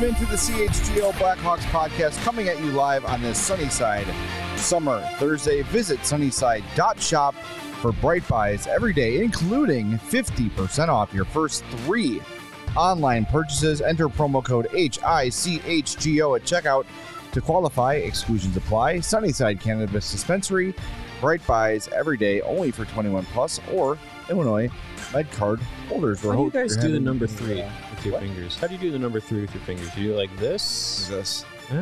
into the CHGO Blackhawks podcast, coming at you live on this Sunnyside Summer Thursday. Visit sunnyside.shop for bright buys every day, including 50% off your first 3 online purchases. Enter promo code HICHGO at checkout to qualify. Exclusions apply. Sunnyside Cannabis Dispensary. Bright buys every day, only for 21 plus or Illinois Med Card holders. How do you guys do the number 3 with your fingers? How do you do the number 3 with your fingers? You do it like this? This. Huh?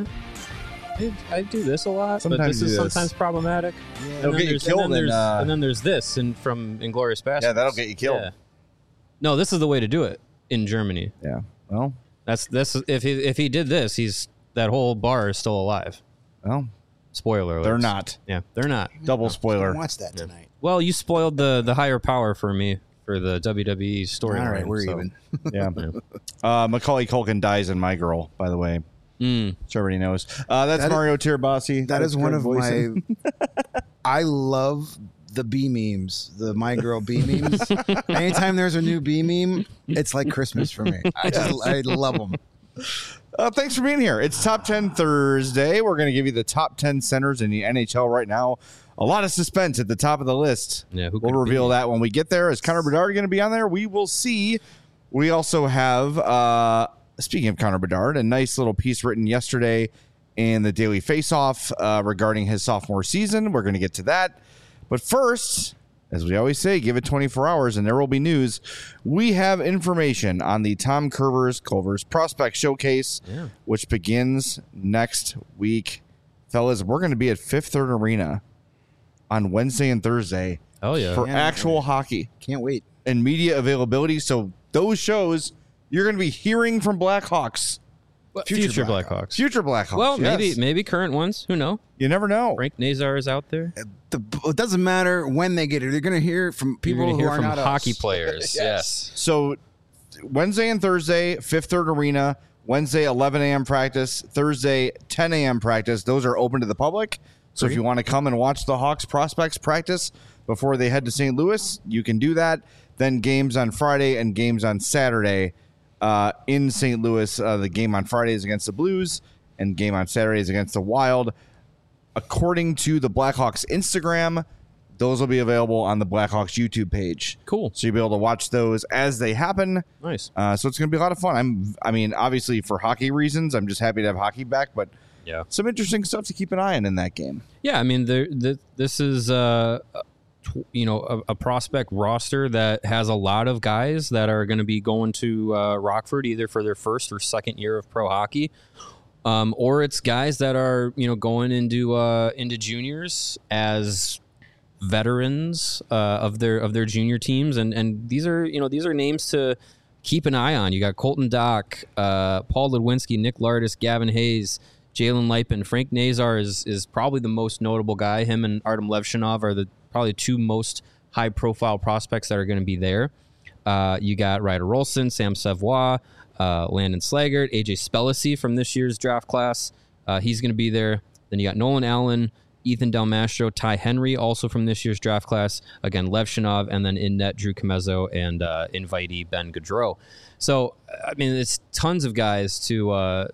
I do this a lot, Sometimes but this you is do this. sometimes problematic. Yeah. It'll get you killed. And then there's this from Inglourious Basterds. Yeah, that'll get you killed. Yeah. No, this is the way to do it in Germany. Yeah. Well, That's if he did this, that whole bar is still alive. Well, Spoiler alert. they're not. Yeah, they're not. Double spoiler. Watch that tonight. Well, you spoiled the higher power for me for the WWE story. All right, we're even. Yeah. Macaulay Culkin dies in My Girl, by the way. So everybody knows. That's That is- Mario Tirabassi. That is one of my. I love the B memes, the My Girl B memes. Anytime there's a new B meme, it's like Christmas for me. I love them. Thanks for being here. It's Top 10 Thursday. We're going to give you the top 10 centers in the NHL right now. A lot of suspense at the top of the list. Yeah, who we'll could it reveal be? that when we get there. Is Connor Bedard going to be on there? We will see. We also have, speaking of Connor Bedard, a nice little piece written yesterday in the Daily Faceoff regarding his sophomore season. We're going to get to that. But first, as we always say, give it 24 hours and there will be news. We have information on the Tom Culver's Prospect Showcase, which begins next week. Fellas, we're going to be at Fifth Third Arena on Wednesday and Thursday Oh yeah. for actual hockey Can't wait. and media availability. So those shows, you're going to be hearing from Blackhawks, Future Blackhawks. future Blackhawks. Well, yes. maybe current ones. Who knows? You never know. Frank Nazar is out there. It doesn't matter when they get here. They're going to hear from people You're gonna who hear are from not hockey us. players. Yes. So Wednesday and Thursday, Fifth Third Arena. Wednesday, 11 a.m. practice. Thursday, 10 a.m. practice. Those are open to the public. So if you want to come and watch the Hawks prospects practice before they head to St. Louis, you can do that. Then games on Friday and games on Saturday in St. Louis. The game on Friday is against the Blues and game on Saturday is against the Wild. According to the Blackhawks Instagram, those will be available on the Blackhawks YouTube page. Cool. So you'll be able to watch those as they happen. Nice. So it's going to be a lot of fun. I mean, obviously for hockey reasons, I'm just happy to have hockey back, but Yeah. some interesting stuff to keep an eye on in that game. Yeah, I mean, this is a prospect roster that has a lot of guys that are going to be going to Rockford either for their first or second year of pro hockey, or it's guys that are going into juniors as veterans of their junior teams, and these are names to keep an eye on. You got Colton Dock, Paul Ludwinski, Nick Lardis, Gavin Hayes, Jalen Lipin. Frank Nazar is probably the most notable guy. Him and Artem Levshinov are the probably 2 most high-profile prospects that are going to be there. You got Ryder Rolston, Sam Savoie, Landon Slaggert, AJ Spellacy from this year's draft class. He's going to be there. Then you got Nolan Allen, Ethan Del Mastro, Ty Henry, also from this year's draft class. Again, Levshinov, and then in net Drew Comezzo and invitee Ben Gaudreau. So, I mean, it's tons of guys to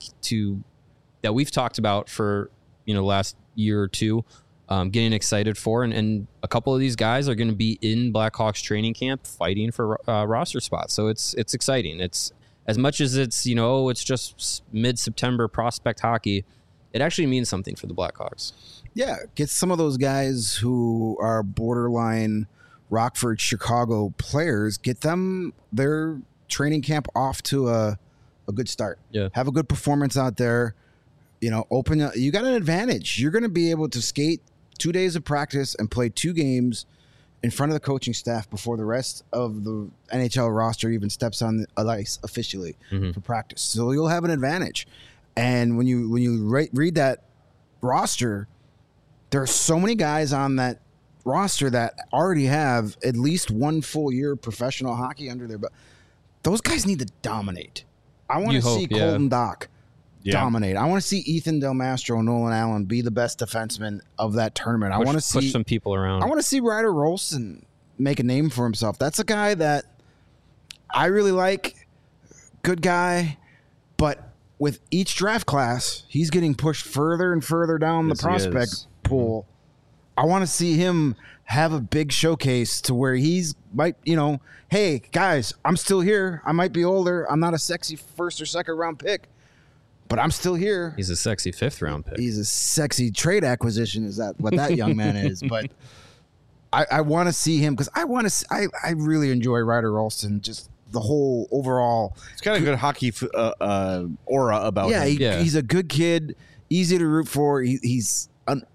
that we've talked about for the last year or two, getting excited for, and a couple of these guys are going to be in Blackhawks training camp fighting for roster spots. So it's exciting. It's as much as it's it's just mid-September prospect hockey. It actually means something for the Blackhawks. Yeah, get some of those guys who are borderline Rockford, Chicago players, get them their training camp off to a good start. Yeah. Have a good performance out there. You got an advantage. You're going to be able to skate 2 days of practice and play 2 games in front of the coaching staff before the rest of the NHL roster even steps on the ice officially for practice. So you'll have an advantage. And when you read that roster, there are so many guys on that roster that already have at least 1 full year of professional hockey under their belt. Those guys need to dominate. I want to see Colton Dock dominate. I want to see Ethan Del Mastro and Nolan Allen be the best defensemen of that tournament. I want to see push some people around. I want to see Ryder Rolston make a name for himself. That's a guy that I really like. Good guy, but with each draft class, he's getting pushed further and further down Yes, the he prospect is. pool. I want to see him have a big showcase to where might, hey guys, I'm still here. I might be older. I'm not a sexy first or second round pick, but I'm still here. He's a sexy 5th round pick. He's a sexy trade acquisition. Is that what that young man is? But I want to see him because I really enjoy Ryder Ralston. Just the whole overall. It's got a good hockey aura about him. He's a good kid, easy to root for. He's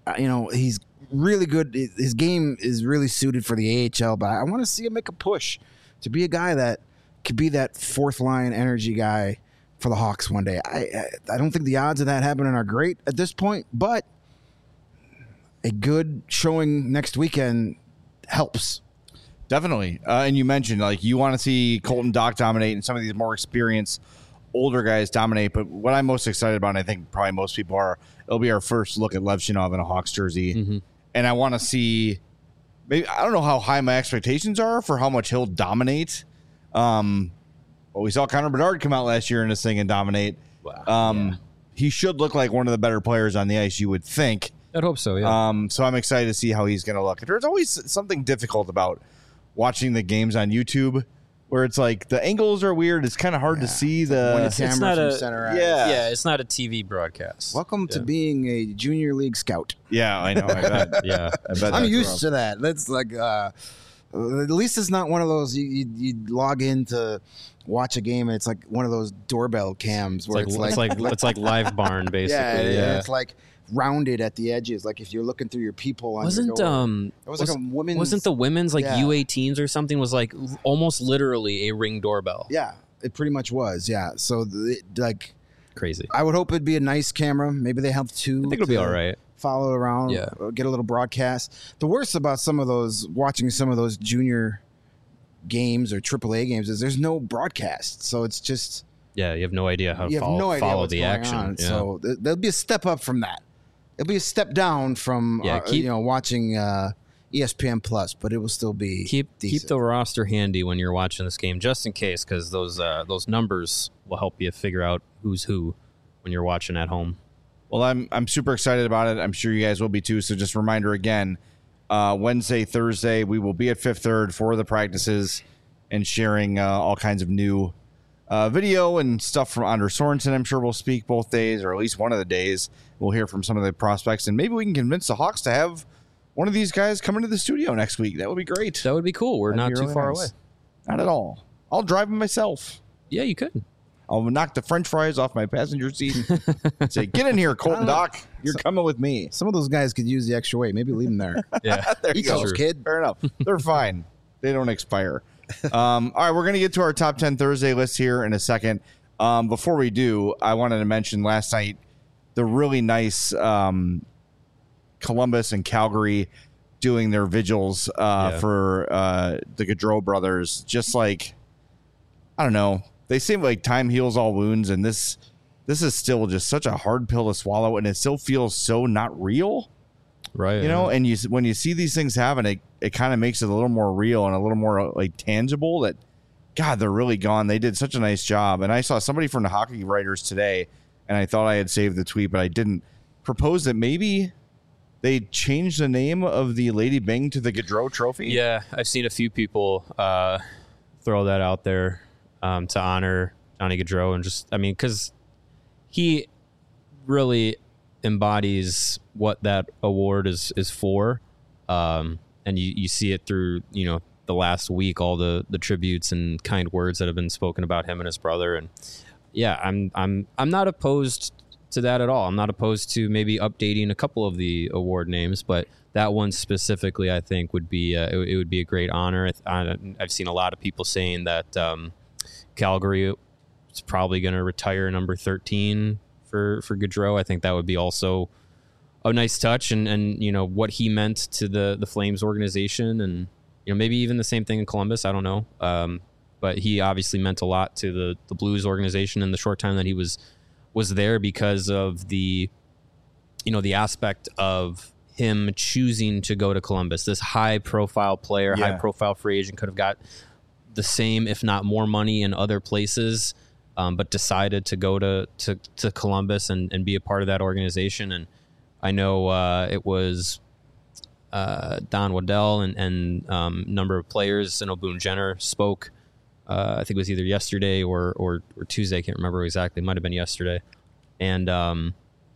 really good. His game is really suited for the AHL, but I want to see him make a push to be a guy that could be that fourth line energy guy for the Hawks one day. I don't think the odds of that happening are great at this point, but a good showing next weekend helps. Definitely. And you mentioned, like, you want to see Colton Dach dominate and some of these more experienced older guys dominate. But what I'm most excited about, and I think probably most people are, it'll be our first look at Lev Shinov in a Hawks jersey. Mm-hmm. And I want to see, maybe, I don't know how high my expectations are for how much he'll dominate. Well, we saw Connor Bedard come out last year in this thing and dominate. Wow. He should look like one of the better players on the ice, you would think. I'd hope so, yeah. So I'm excited to see how he's going to look. There's always something difficult about watching the games on YouTube where it's like the angles are weird. It's kind of hard to see the camera not from a- center ice. Yeah. It's not a TV broadcast. Welcome to being a junior league scout. Yeah, I know. I bet. Yeah. I bet I'm that's used rough. to that. That's like, at least it's not one of those you log in to watch a game and it's like one of those doorbell cams where It's like Live Barn, basically. and it's like rounded at the edges. Like if you're looking through your peephole on Wasn't your door. It was like a women's. Wasn't the women's like Yeah. U18s or something was like almost literally a Ring doorbell? Yeah, it pretty much was. Yeah, so like Crazy. I would hope it'd be a nice camera. Maybe they have two. I think it'll be all right. Follow around, Yeah. get a little broadcast. The worst about watching some of those junior games or AAA games is there's no broadcast, so it's just Yeah, you have no idea how to you have no idea follow what's the going action. on. Yeah. So there'll be a step up from that. It'll be a step down from watching ESPN Plus, but it will still be keep decent. the roster handy when you're watching this game, just in case, because those numbers will help you figure out who's who when you're watching at home. Well, I'm super excited about it. I'm sure you guys will be too. So just a reminder again, Wednesday, Thursday, we will be at Fifth Third for the practices and sharing all kinds of new video and stuff from Anders Sorensen. I'm sure we'll speak both days, or at least one of the days. We'll hear from some of the prospects, and maybe we can convince the Hawks to have one of these guys come into the studio next week. That would be great. That would be cool. We're That'd not be too really far nice. away. Not at all. I'll drive him myself. Yeah, you could. I'll knock the French fries off my passenger seat and say, "Get in here, Colton Dach. You're coming with me." Some of those guys could use the extra weight. Maybe leave them there. Yeah, There you Eat go. those, kid. Fair enough. They're fine. They don't expire. All right, we're going to get to our top 10 Thursday list here in a second. Before we do, I wanted to mention last night the really nice Columbus and Calgary doing their vigils for the Gaudreau brothers. Just like, I don't know. They seem like time heals all wounds, and this is still just such a hard pill to swallow, and it still feels so not real. right. You know, and when you see these things happen, it kind of makes it a little more real and a little more like tangible that, God, they're really gone. They did such a nice job. And I saw somebody from the Hockey Writers today, and I thought I had saved the tweet, but I didn't, propose that maybe they changed the name of the Lady Byng to the Gaudreau Trophy. Yeah, I've seen a few people throw that out there to honor Johnny Gaudreau, and just, I mean, because he really embodies what that award is for, and you see it through, you know, the last week, all the tributes and kind words that have been spoken about him and his brother. And yeah, I'm not opposed to that at all. I'm not opposed to maybe updating a couple of the award names, but that one specifically, I think, would be it would be a great honor. I've seen a lot of people saying that Calgary is probably going to retire number 13 for Gaudreau. I think that would be also a nice touch, and you know what he meant to the Flames organization, and you know maybe even the same thing in Columbus. I don't know, but he obviously meant a lot to the Blues organization in the short time that he was there, because of the aspect of him choosing to go to Columbus. This high profile player, high profile free agent, could have got the same, if not more money in other places. but decided to go to Columbus and be a part of that organization. And I know it was Don Waddell and number of players. I know Boone Jenner spoke. I think it was either yesterday or Tuesday. I can't remember exactly. It might have been yesterday. And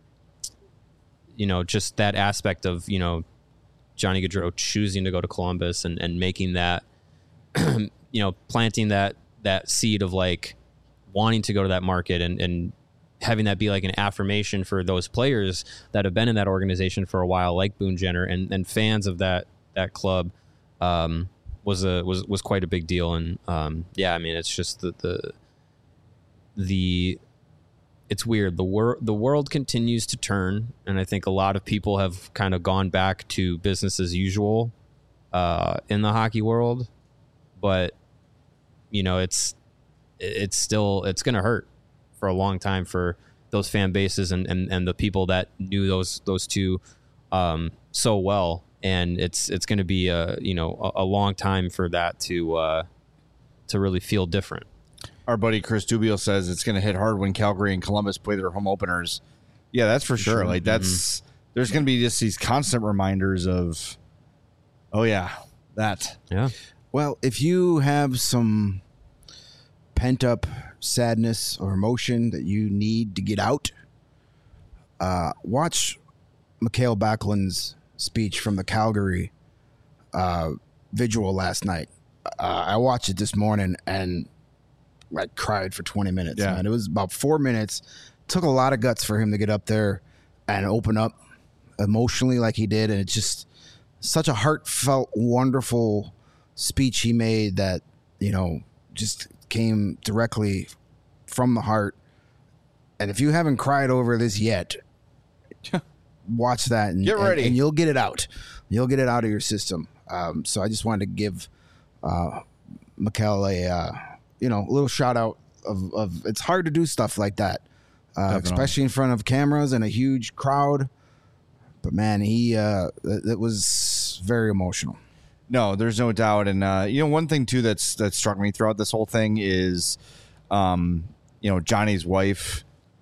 just that aspect of Johnny Gaudreau choosing to go to Columbus and making that planting that seed of like wanting to go to that market and having that be like an affirmation for those players that have been in that organization for a while, like Boone Jenner and fans of that club, was quite a big deal. And it's just it's weird. The world continues to turn, and I think a lot of people have kind of gone back to business as usual in the hockey world. But it's going to hurt for a long time for those fan bases and the people that knew those two so well. And it's going to be a long time for that to really feel different. Our buddy Chris Dubio says it's going to hit hard when Calgary and Columbus play their home openers. Yeah, that's for sure. Like there's going to be just these constant reminders of, oh yeah, that. Yeah. Well, if you have some pent up sadness or emotion that you need to get out, watch Mikael Backlund's speech from the Calgary vigil last night. I watched it this morning and I cried for 20 minutes. Yeah. Man. It was about 4 minutes. Took a lot of guts for him to get up there and open up emotionally like he did. And it's just such a heartfelt, wonderful speech he made that, just came directly from the heart. And if you haven't cried over this yet, watch that and get ready. And you'll get it out. You'll get it out of your system. So I just wanted to give Mikael a little shout out of it's hard to do stuff like that, especially in front of cameras and a huge crowd. But man, it was very emotional. No, there's no doubt. And one thing too that struck me throughout this whole thing is, Johnny's wife.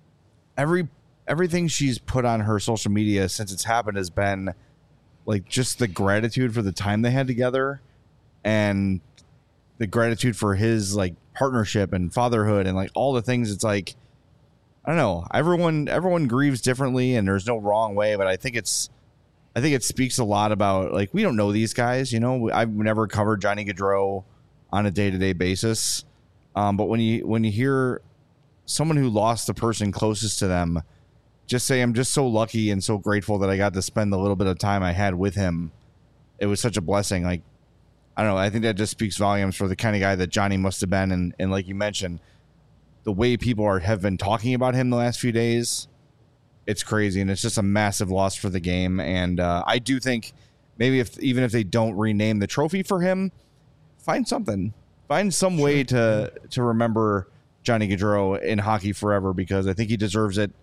Everything she's put on her social media since it's happened has been like just the gratitude for the time they had together, and the gratitude for his like partnership and fatherhood and like all the things. It's like, I don't know. Everyone grieves differently, and there's no wrong way. But I think it speaks a lot about, like, we don't know these guys. I've never covered Johnny Gaudreau on a day-to-day basis. But when you hear someone who lost the person closest to them just say, I'm just so lucky and so grateful that I got to spend the little bit of time I had with him. It was such a blessing. Like, I don't know. I think that just speaks volumes for the kind of guy that Johnny must have been. And like you mentioned, the way people have been talking about him the last few days, it's crazy. And it's just a massive loss for the game. And I do think maybe even if they don't rename the trophy for him, find something. Find some way to remember Johnny Gaudreau in hockey forever, because I think he deserves it.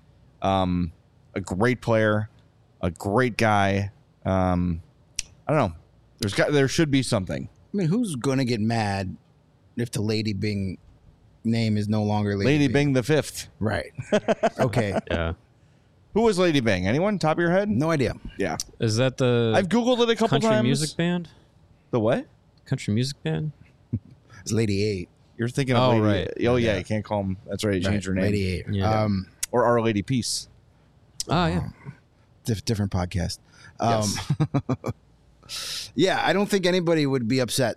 A great player, a great guy. I don't know. There should be something. I mean, who's going to get mad if the Lady Byng name is no longer Lady Byng the fifth? Right. Okay. Yeah. Who was Lady Byng? Anyone? Top of your head? No idea. Yeah. Is that the I've Googled it a couple country times. music band? The what? Country music band? It's Lady 8. You're thinking of Oh, Lady. right. Oh, yeah. You can't call them. That's right. You changed her name. Lady 8. Yeah. Or Our Lady Peace. Oh, yeah. Different podcast. Yes. Yeah, I don't think anybody would be upset,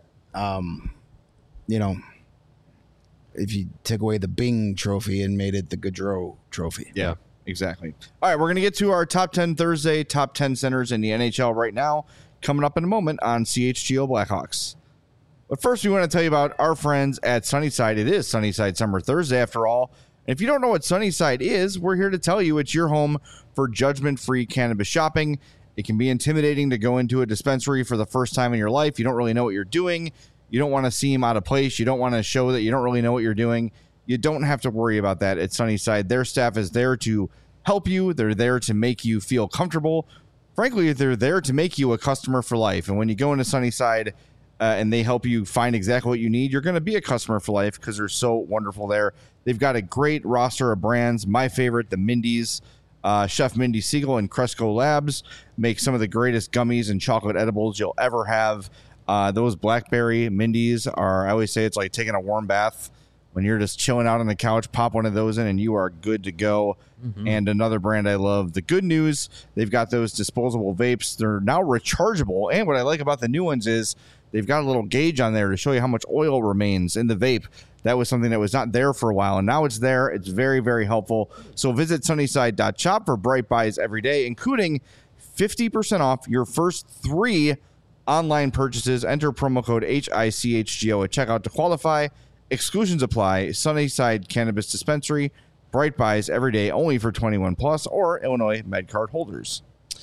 if you took away the Bing trophy and made it the Gaudreau trophy. Yeah, exactly. All right, we're going to get to our top 10 Thursday, top 10 centers in the NHL right now, coming up in a moment on CHGO Blackhawks. But first, we want to tell you about our friends at Sunnyside. It is Sunnyside Summer Thursday, after all. And if you don't know what Sunnyside is, we're here to tell you it's your home for judgment-free cannabis shopping. It can be intimidating to go into a dispensary for the first time in your life. You don't really know what you're doing. You don't want to seem out of place. You don't want to show that you don't really know what you're doing. You don't have to worry about that at Sunnyside. Their staff is there to help you. They're there to make you feel comfortable. Frankly, they're there to make you a customer for life. And when you go into Sunnyside and they help you find exactly what you need, you're going to be a customer for life because they're so wonderful there. They've got a great roster of brands. My favorite, the Mindy's. Chef Mindy Siegel and Cresco Labs make some of the greatest gummies and chocolate edibles you'll ever have. Those blackberry Mindy's are, I always say it's like taking a warm bath. When you're just chilling out on the couch, pop one of those in and you are good to go. Mm-hmm. And another brand I love, the Good News, they've got those disposable vapes. They're now rechargeable. And what I like about the new ones is they've got a little gauge on there to show you how much oil remains in the vape. That was something that was not there for a while, and now it's there. It's very, very helpful. So visit Sunnyside.shop for bright buys every day, including 50% off your first 3 online purchases. Enter promo code HICHGO at checkout to qualify. Exclusions apply. Sunnyside Cannabis Dispensary. Bright buys every day, only for 21 plus or Illinois MedCard holders.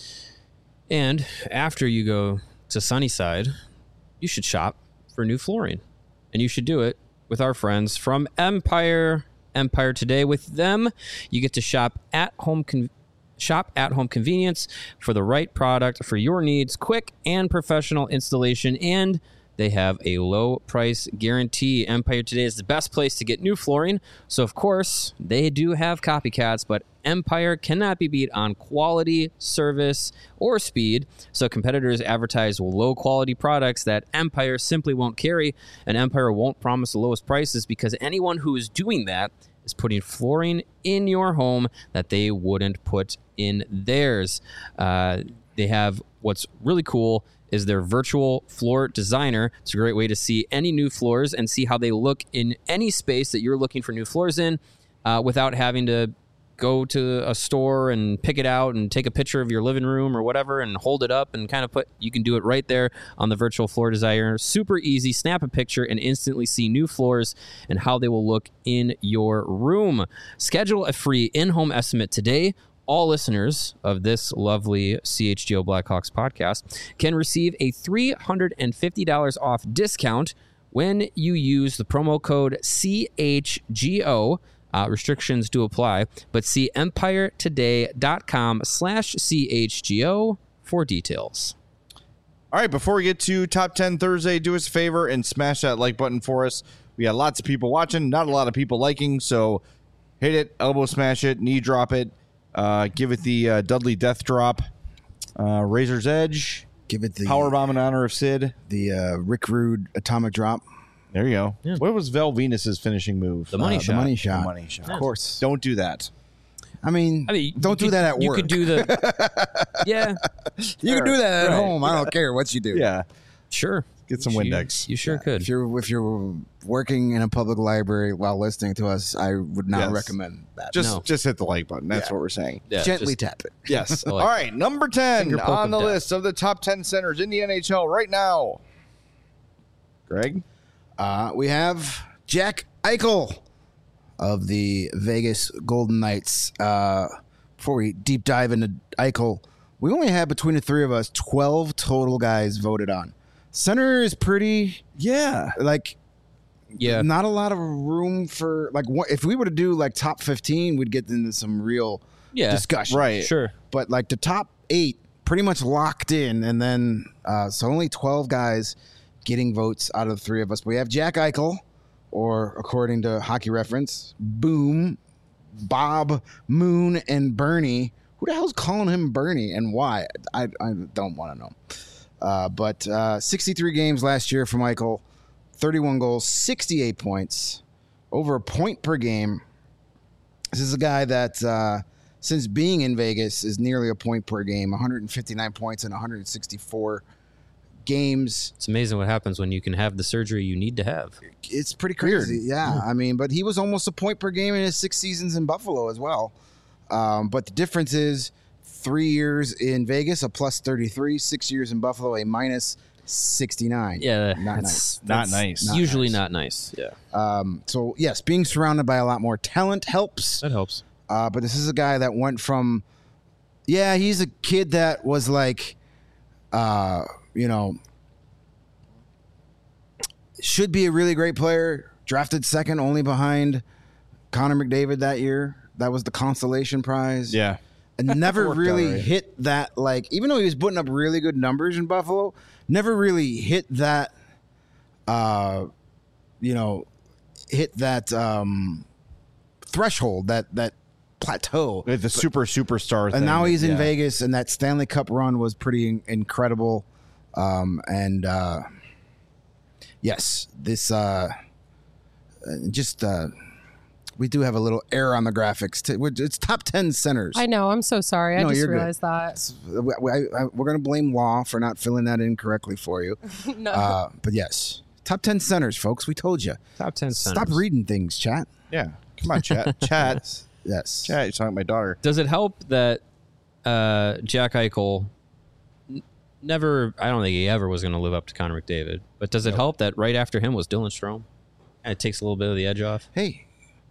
And after you go to Sunnyside, you should shop for new flooring, and you should do it with our friends from Empire Today. With them, you get to shop at home convenience for the right product for your needs, quick and professional installation, and they have a low price guarantee. Empire Today is the best place to get new flooring. So, of course, they do have copycats, but Empire cannot be beat on quality, service, or speed. So competitors advertise low-quality products that Empire simply won't carry, and Empire won't promise the lowest prices because anyone who is doing that is putting flooring in your home that they wouldn't put in theirs. They have what's really cool is their virtual floor designer. It's a great way to see any new floors and see how they look in any space that you're looking for new floors in without having to go to a store and pick it out and take a picture of your living room or whatever and hold it up and kind of you can do it right there on the virtual floor designer. Super easy. Snap a picture and instantly see new floors and how they will look in your room. Schedule a free in-home estimate today. All listeners of this lovely CHGO Blackhawks podcast can receive a $350 off discount when you use the promo code CHGO. Restrictions do apply, but see empiretoday.com/CHGO for details. All right, before we get to Top 10 Thursday, do us a favor and smash that like button for us. We got lots of people watching, not a lot of people liking, so hit it, elbow smash it, knee drop it. Give it the Dudley Death Drop, Razor's Edge. Give it the Powerbomb in honor of Sid. The Rick Rude Atomic Drop. There you go. Yeah. What was Val Venus's finishing move? The money shot. The money shot. The money shot. Of course. Don't do that. I mean don't do that at work. You could do the... Yeah. You can do that at home. I don't care what you do. Yeah. Sure. Get some Windex. You sure could. If you're working in a public library while listening to us, I would not recommend that. Just hit the like button. That's what we're saying. Yeah, gently tap it. Yes. All right. Number 10 on the list of the top 10 centers in the NHL right now. Greg? We have Jack Eichel of the Vegas Golden Knights. Before we deep dive into Eichel, we only had between the three of us 12 total guys voted on. Center is pretty, not a lot of room for if we were to do top 15, we'd get into some real discussion, right? Sure, but the top 8 pretty much locked in, and then so only 12 guys getting votes out of the three of us. But we have Jack Eichel, or according to Hockey Reference, Boom, Bob, Moon, and Bernie. Who the hell's calling him Bernie and why? I don't want to know. But 63 games last year for Eichel, 31 goals, 68 points, over a point per game. This is a guy that, since being in Vegas, is nearly a point per game, 159 points in 164 games. It's amazing what happens when you can have the surgery you need to have. It's pretty crazy. Weird. Yeah. I mean, but he was almost a point per game in his 6 seasons in Buffalo as well. But the difference is 3 years in Vegas, a plus 33, 6 years in Buffalo, a minus 69. Yeah. Not nice. Not nice. Usually not nice. Yeah. So, yes, being surrounded by a lot more talent helps. That helps. But this is a guy that went from, he's a kid that was should be a really great player, drafted second only behind Connor McDavid that year. That was the consolation prize. Yeah. And never really hit that, even though he was putting up really good numbers in Buffalo, never really hit that, threshold, that plateau. The superstar thing. And now he's in Yeah. Vegas, and that Stanley Cup run was pretty incredible. Yes, this we do have a little error on the graphics. It's top 10 centers. I know. I'm so sorry. I No, just you're good. realized that. We're going to blame Law for not filling that in correctly for you. No. But yes, top 10 centers, folks. We told you. Top 10 Stop centers. reading things, chat. Yeah. Come on, chat. Chat. Yes. Chat. You're talking to my daughter. Does it help that Jack Eichel never, I don't think he ever was going to live up to Connor McDavid, but does it help that right after him was Dylan Strome? And it takes a little bit of the edge off. Hey,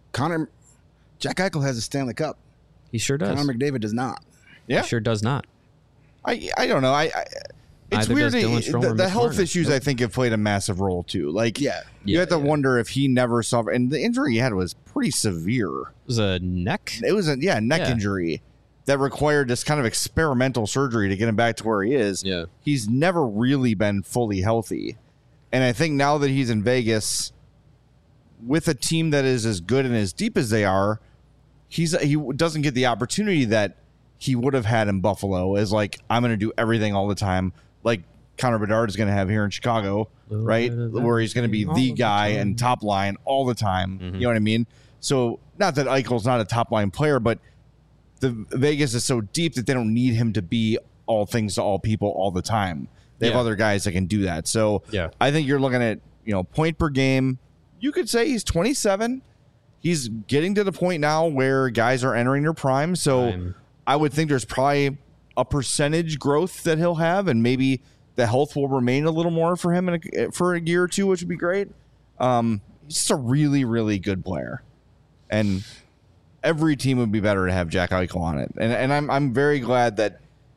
Jack Eichel has a Stanley Cup. He sure does. Connor McDavid does not. Yeah. He sure does not. I don't know. It's Neither weird. does Dylan Strome or The Mitch health Marner. issues, I think, have played a massive role too. Like, you Yeah, have to yeah. wonder if he never saw. And the injury he had was pretty severe. It was a neck. It was a neck Yeah. injury that required this kind of experimental surgery to get him back to where he is. Yeah. He's never really been fully healthy, and I think now that he's in Vegas with a team that is as good and as deep as they are, he doesn't get the opportunity that he would have had in Buffalo. As like, I'm going to do everything all the time, like Connor Bedard is going to have here in Chicago, right? Where he's going to be the guy and top line all the time. Mm-hmm. You know what I mean? So not that Eichel's not a top line player, but the Vegas is so deep that they don't need him to be all things to all people all the time. They have Yeah. other guys that can do that. So Yeah. I think you're looking at, point per game. You could say he's 27. He's getting to the point now where guys are entering their prime. So Prime. I would think there's probably a percentage growth that he'll have, and maybe the health will remain a little more for him for a year or two, which would be great. He's just a really, really good player, and every team would be better to have Jack Eichel on it. And I'm very glad that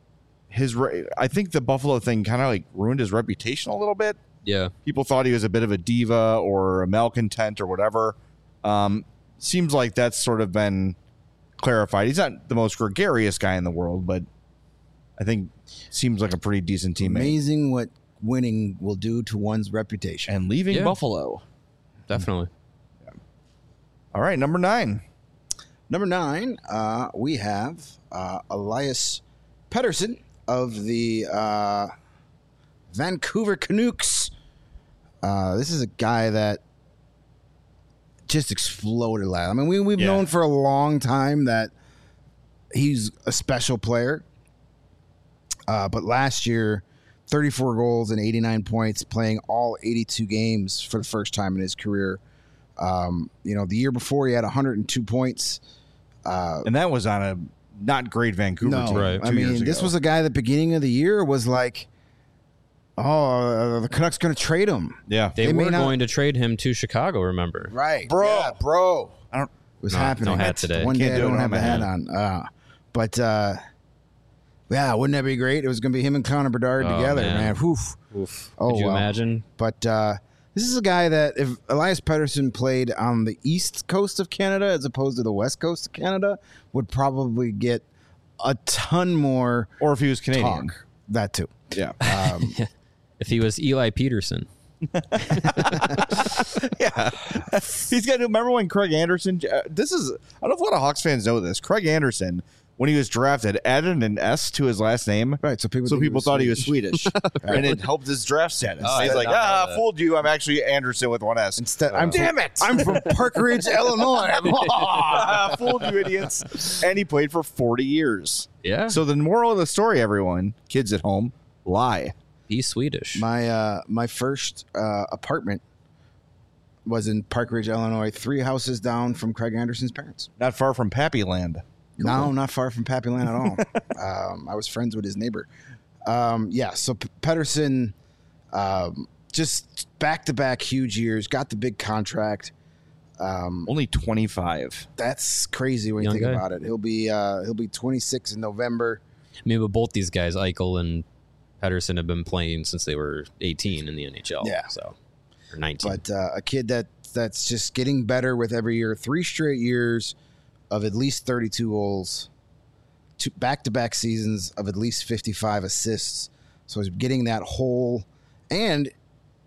I think the Buffalo thing kind of like ruined his reputation a little bit. Yeah. People thought he was a bit of a diva or a malcontent or whatever. Seems like that's sort of been clarified. He's not the most gregarious guy in the world, but I think seems like a pretty decent teammate. Amazing what winning will do to one's reputation. And leaving Yeah. Buffalo. Definitely. All right, number 9. Number 9, we have Elias Pettersson of the Vancouver Canucks. This is a guy that just exploded last. I mean, we've Yeah. known for a long time that he's a special player. But last year, 34 goals and 89 points, playing all 82 games for the first time in his career. The year before, he had 102 points. And that was on a not great Vancouver No, team. Right. I 2 years mean, this ago. was a guy at the beginning of the year was like, the Canucks going to trade him. Yeah. They may were not- going to trade him to Chicago, remember? Right. Bro. Yeah, bro. I don't It was No, happening. no hat today. One Can't day I do it don't on have my a hat on. But yeah, wouldn't that be great? It was going to be him and Connor Bedard Oh, together, man. man. Oof. Oof. Oh, Could you wow. imagine? But this is a guy that if Elias Pettersson played on the east coast of Canada as opposed to the west coast of Canada, would probably get a ton more or if he was Canadian. talk. That too. Yeah. If he was Eli Peterson. Yeah. He's got to remember when Craig Anderson, I don't know if a lot of Hawks fans know this. Craig Anderson, when he was drafted, added an S to his last name. Right. So people Thought he was Swedish. And it helped his draft status. Oh, I He's did like, not know that. fooled you. I'm actually Anderson with one S. Instead, Damn it. I'm from Park Ridge, Illinois. Fooled you, idiots. And he played for 40 years. Yeah. So the moral of the story, everyone, kids at home, lie. He's Swedish. My first apartment was in Park Ridge, Illinois, 3 houses down from Craig Anderson's parents. Not far from Pappy Land. No, not far from Pappy Land at all. I was friends with his neighbor. So Pettersson, just back-to-back huge years, got the big contract. Only 25. That's crazy when you Young think guy. about it. He'll be 26 in November. I mean, but both these guys, Eichel and Pettersson, have been playing since they were 18 in the NHL. Yeah. So, or 19. But a kid that's just getting better with every year. 3 straight years of at least 32 goals, 2 back-to-back seasons of at least 55 assists. So he's getting that whole, and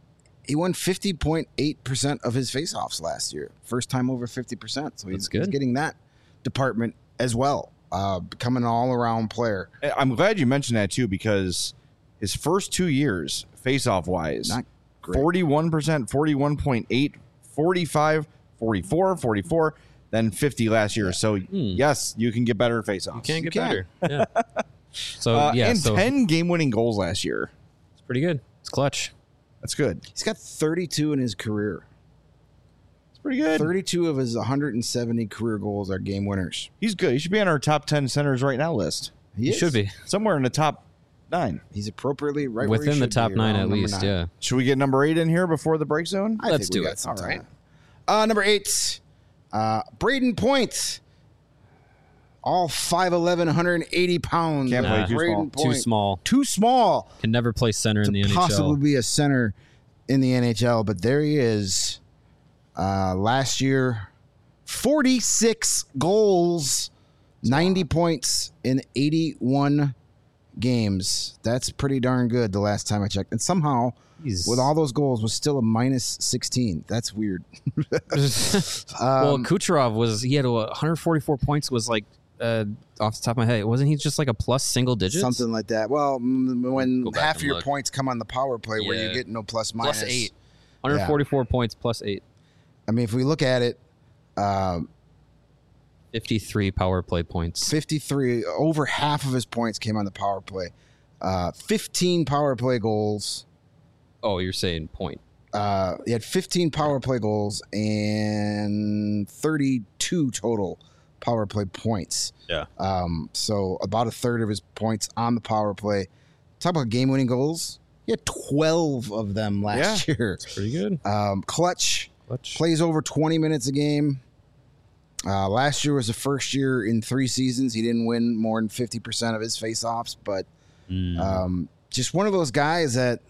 He won 50.8% of his faceoffs last year. First time over 50%. So he's good. getting that department as well. Becoming an all-around player. I'm glad you mentioned that too, because his first 2 years, face-off wise, Not great. 41%, 41.8, 45, 44, 44, then 50 last year. So yes, you can get better face-offs. You can get can. better. Yeah. So and so 10 game-winning goals last year. it's pretty good. It's clutch. That's good. He's got 32 in his career. It's pretty good. 32 of his 170 career goals are game winners. He's good. He should be on our top 10 centers right now list. He is. should be Somewhere in the top 9. He's appropriately right where he within the should top be, 9 around at number least. 9. Yeah. Should we get number 8 in here before the break zone? I Let's think we do got it. some All right. time. Number 8, Braden Point. All 5'11", 180 pounds. Can't play too Braden small. Too Point. small. Too small Can never play center in the to possibly NHL. be a center in the NHL, but there he is. Last year, 46 goals, 90 points in 81 games. That's pretty darn good the last time I checked. And somehow, He's- with all those goals, was still a minus 16. That's weird. Well, Kucherov he had 144 points. Was like off the top of my head, wasn't he just like a plus single digits? Something like that. Well, when Go back half and your look. points come on the power play where you Yeah. get no plus Plus minus. 8. 144 points plus 8. I mean, if we look at it, 53 power play points. 53, over half of his points came on the power play. 15 power play goals. Oh, you're saying point. He had 15 power play goals and 32 total power play points. Yeah. So about a third of his points on the power play. Talk about game-winning goals. He had 12 of them last year. Pretty good. Clutch. Clutch. Plays over 20 minutes a game. Last year was the first year in 3 seasons he didn't win more than 50% of his faceoffs, but just one of those guys that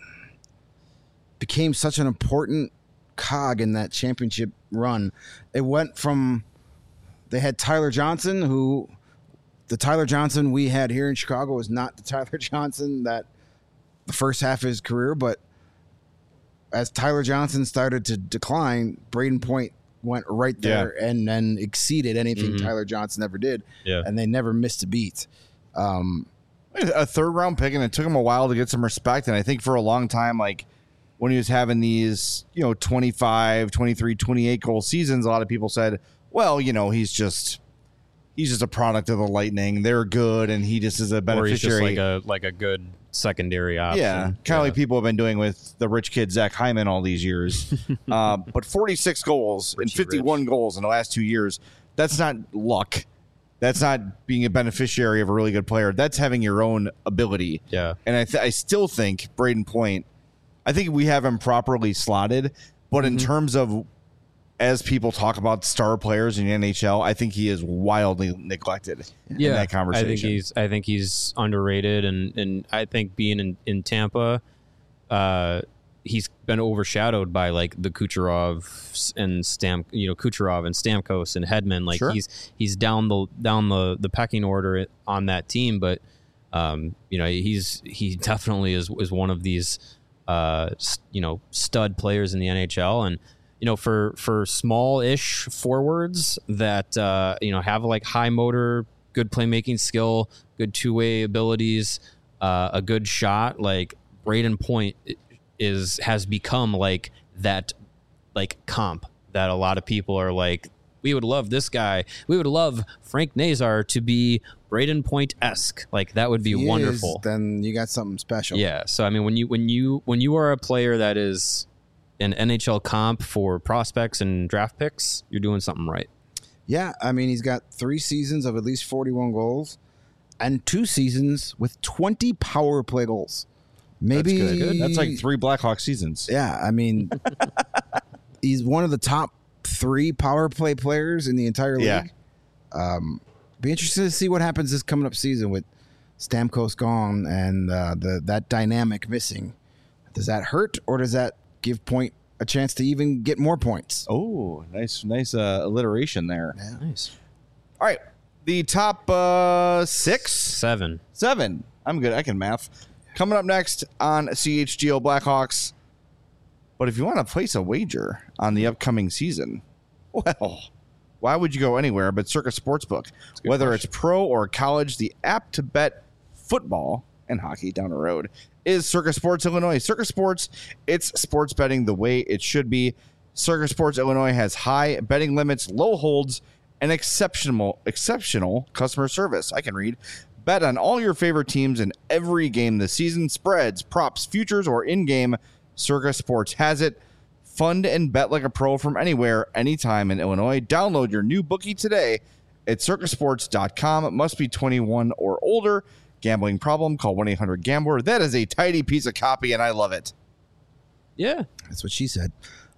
became such an important cog in that championship run. It went from they had Tyler Johnson, who the Tyler Johnson we had here in Chicago was not the Tyler Johnson that the first half of his career, but as Tyler Johnson started to decline, Braden Point went right there and then exceeded anything Tyler Johnson ever did. Yeah. And they never missed a beat. A third round pick, and it took him a while to get some respect. And I think for a long time, like when he was having these, 25, 23, 28 goal seasons, a lot of people said, well, he's just a product of the Lightning. They're good, and he just is a Or he's just beneficiary. like a good secondary option. Yeah, kind of like people have been doing with the rich kid Zach Hyman all these years. But 46 goals and Richie 51 goals in the last 2 years, that's not luck. That's not being a beneficiary of a really good player. That's having your own ability. Yeah. And I still think Braden Point, I think we have him properly slotted, but in terms of as people talk about star players in the NHL, I think he is wildly neglected in that conversation. I think he's underrated, and I think being in Tampa, he's been overshadowed by like the Kucherov and Kucherov and Stamkos and Hedman. Like Sure. he's down the pecking order on that team, but he definitely is one of these stud players in the NHL. And for small-ish forwards that have like high motor, good playmaking skill, good two-way abilities, a good shot, like Braden Point has become like that, like comp that a lot of people are like, we would love this guy. We would love Frank Nazar to be Braden Point-esque. Like that would be He wonderful. is, then you got something special. Yeah. So I mean, when you are a player that is an NHL comp for prospects and draft picks, you're doing something right. Yeah, I mean, he's got 3 seasons of at least 41 goals and 2 seasons with 20 power play goals. Maybe That's good. That's like 3 Blackhawks seasons. Yeah, I mean, he's one of the top 3 power play players in the entire league. Yeah. Be interested to see what happens this coming up season with Stamkos gone and that dynamic missing. Does that hurt, or does that give Point a chance to even get more points? Oh, nice alliteration there. Yeah. Nice. All right. The top 6? 7. 7. I'm good. I can math. Coming up next on CHGO Blackhawks, But if you want to place a wager on the upcoming season, well, why would you go anywhere but Circa Sportsbook? Whether it's pro or college, the app to bet football and hockey down the road is Circa Sports Illinois. Circa Sports, it's sports betting the way it should be. Circa Sports Illinois has high betting limits, low holds, and exceptional customer service. I can read. Bet on all your favorite teams in every game this season. Spreads, props, futures, or in-game. Circa Sports has it. Fund and bet like a pro from anywhere, anytime in Illinois. Download your new bookie today at circasports.com. It must be 21 or older. Gambling problem? Call 1-800-GAMBLER. That is a tidy piece of copy, and I love it. Yeah. That's what she said.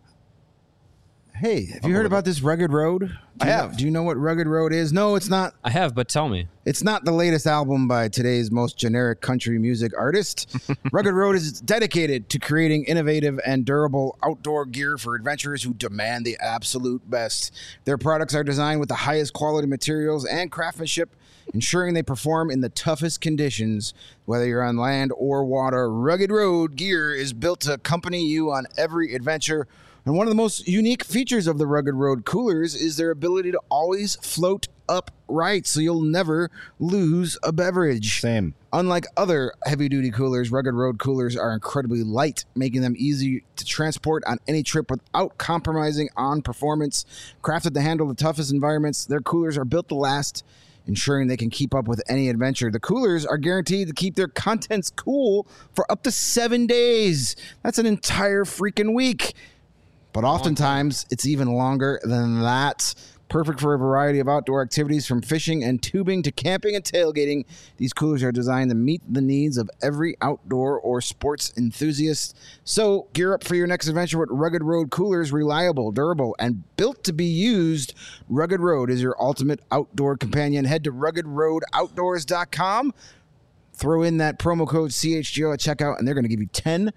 Hey, have you heard about this Rugged Road? I have. Do you know what Rugged Road is? No, it's not. I have, but tell me. It's not the latest album by today's most generic country music artist. Rugged Road is dedicated to creating innovative and durable outdoor gear for adventurers who demand the absolute best. Their products are designed with the highest quality materials and craftsmanship, ensuring they perform in the toughest conditions. Whether you're on land or water, Rugged Road gear is built to accompany you on every adventure. And one of the most unique features of the Rugged Road coolers is their ability to always float upright, so you'll never lose a beverage. Same. Unlike other heavy-duty coolers, Rugged Road coolers are incredibly light, making them easy to transport on any trip without compromising on performance. Crafted to handle the toughest environments, their coolers are built to last, ensuring they can keep up with any adventure. The coolers are guaranteed to keep their contents cool for up to 7 days. That's an entire freaking week. But oftentimes, it's even longer than that. Perfect for a variety of outdoor activities, from fishing and tubing to camping and tailgating. These coolers are designed to meet the needs of every outdoor or sports enthusiast. So gear up for your next adventure with Rugged Road coolers. Reliable, durable, and built to be used. Rugged Road is your ultimate outdoor companion. Head to ruggedroadoutdoors.com. Throw in that promo code CHGO at checkout, and they're going to give you 10%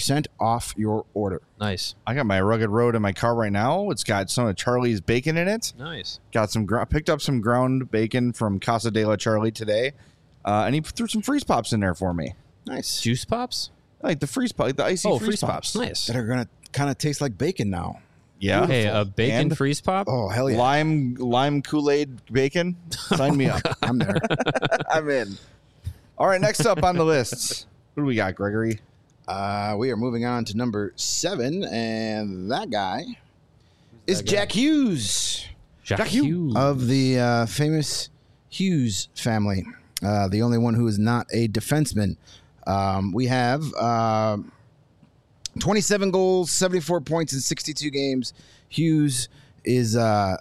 off your order. Nice. I got my Rugged Road in my car right now. It's got some of Charlie's bacon in it. Nice. Got some picked up some ground bacon from Casa de la Charlie today, and he threw some freeze pops in there for me. Nice. Juice pops? Like the freeze pop, like the icy freeze pops. Nice. That are going to kind of taste like bacon now. Yeah. Hey, a bacon And freeze pop? Oh, hell yeah. Lime Kool-Aid bacon. Sign me up. I'm there. I'm in. All right, next up on the lists. What do we got, Gregory? We are moving on to number 7, and that guy is Jack Hughes Jack Hughes. of the famous Hughes family, the only one who is not a defenseman. We have 27 goals, 74 points in 62 games. Hughes is... Oh,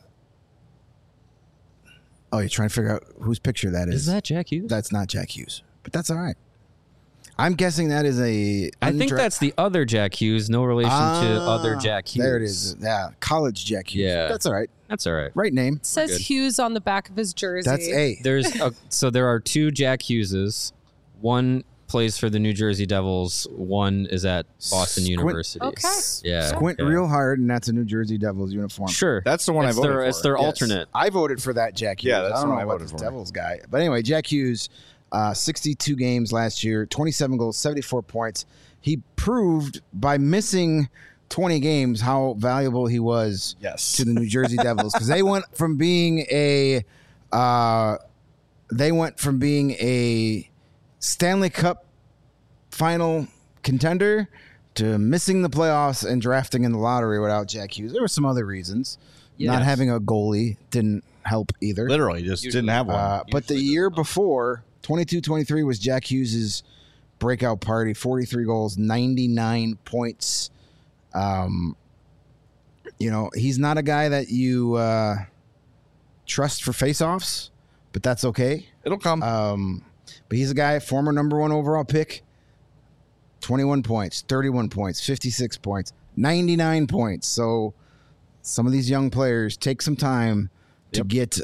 you're trying to figure out whose picture that is. Is that Jack Hughes? That's not Jack Hughes, but that's all right. I'm guessing that is a... I think that's the other Jack Hughes, no relation to other Jack Hughes. There it is. Yeah, college Jack Hughes. Yeah. That's all right. That's all right. Right name. It says good. Hughes on the back of his jersey. That's A. So there are 2 Jack Hugheses. One plays for the New Jersey Devils. One is at Boston Squint. University. Okay. Yeah. Squint okay. real hard, and that's a New Jersey Devils uniform. Sure. That's the one I it's voted their, for. It's their Yes. alternate. I voted for that Jack Hughes. Yeah, that's I don't the know one I about voted this for. Devils guy. But anyway, Jack Hughes, 62 games last year, 27 goals, 74 points. He proved by missing 20 games how valuable he was Yes. to the New Jersey Devils, because they went from being a Stanley Cup final contender to missing the playoffs and drafting in the lottery without Jack Hughes. There were some other reasons. Not Yes. having a goalie didn't help either. Literally, just didn't have one. But the year before, 22-23 was Jack Hughes' breakout party. 43 goals, 99 points. He's not a guy that you trust for faceoffs, but that's okay. It'll come. But he's a guy, former number 1 overall pick. 21 points, 31 points, 56 points, 99 points. So some of these young players take some time to get,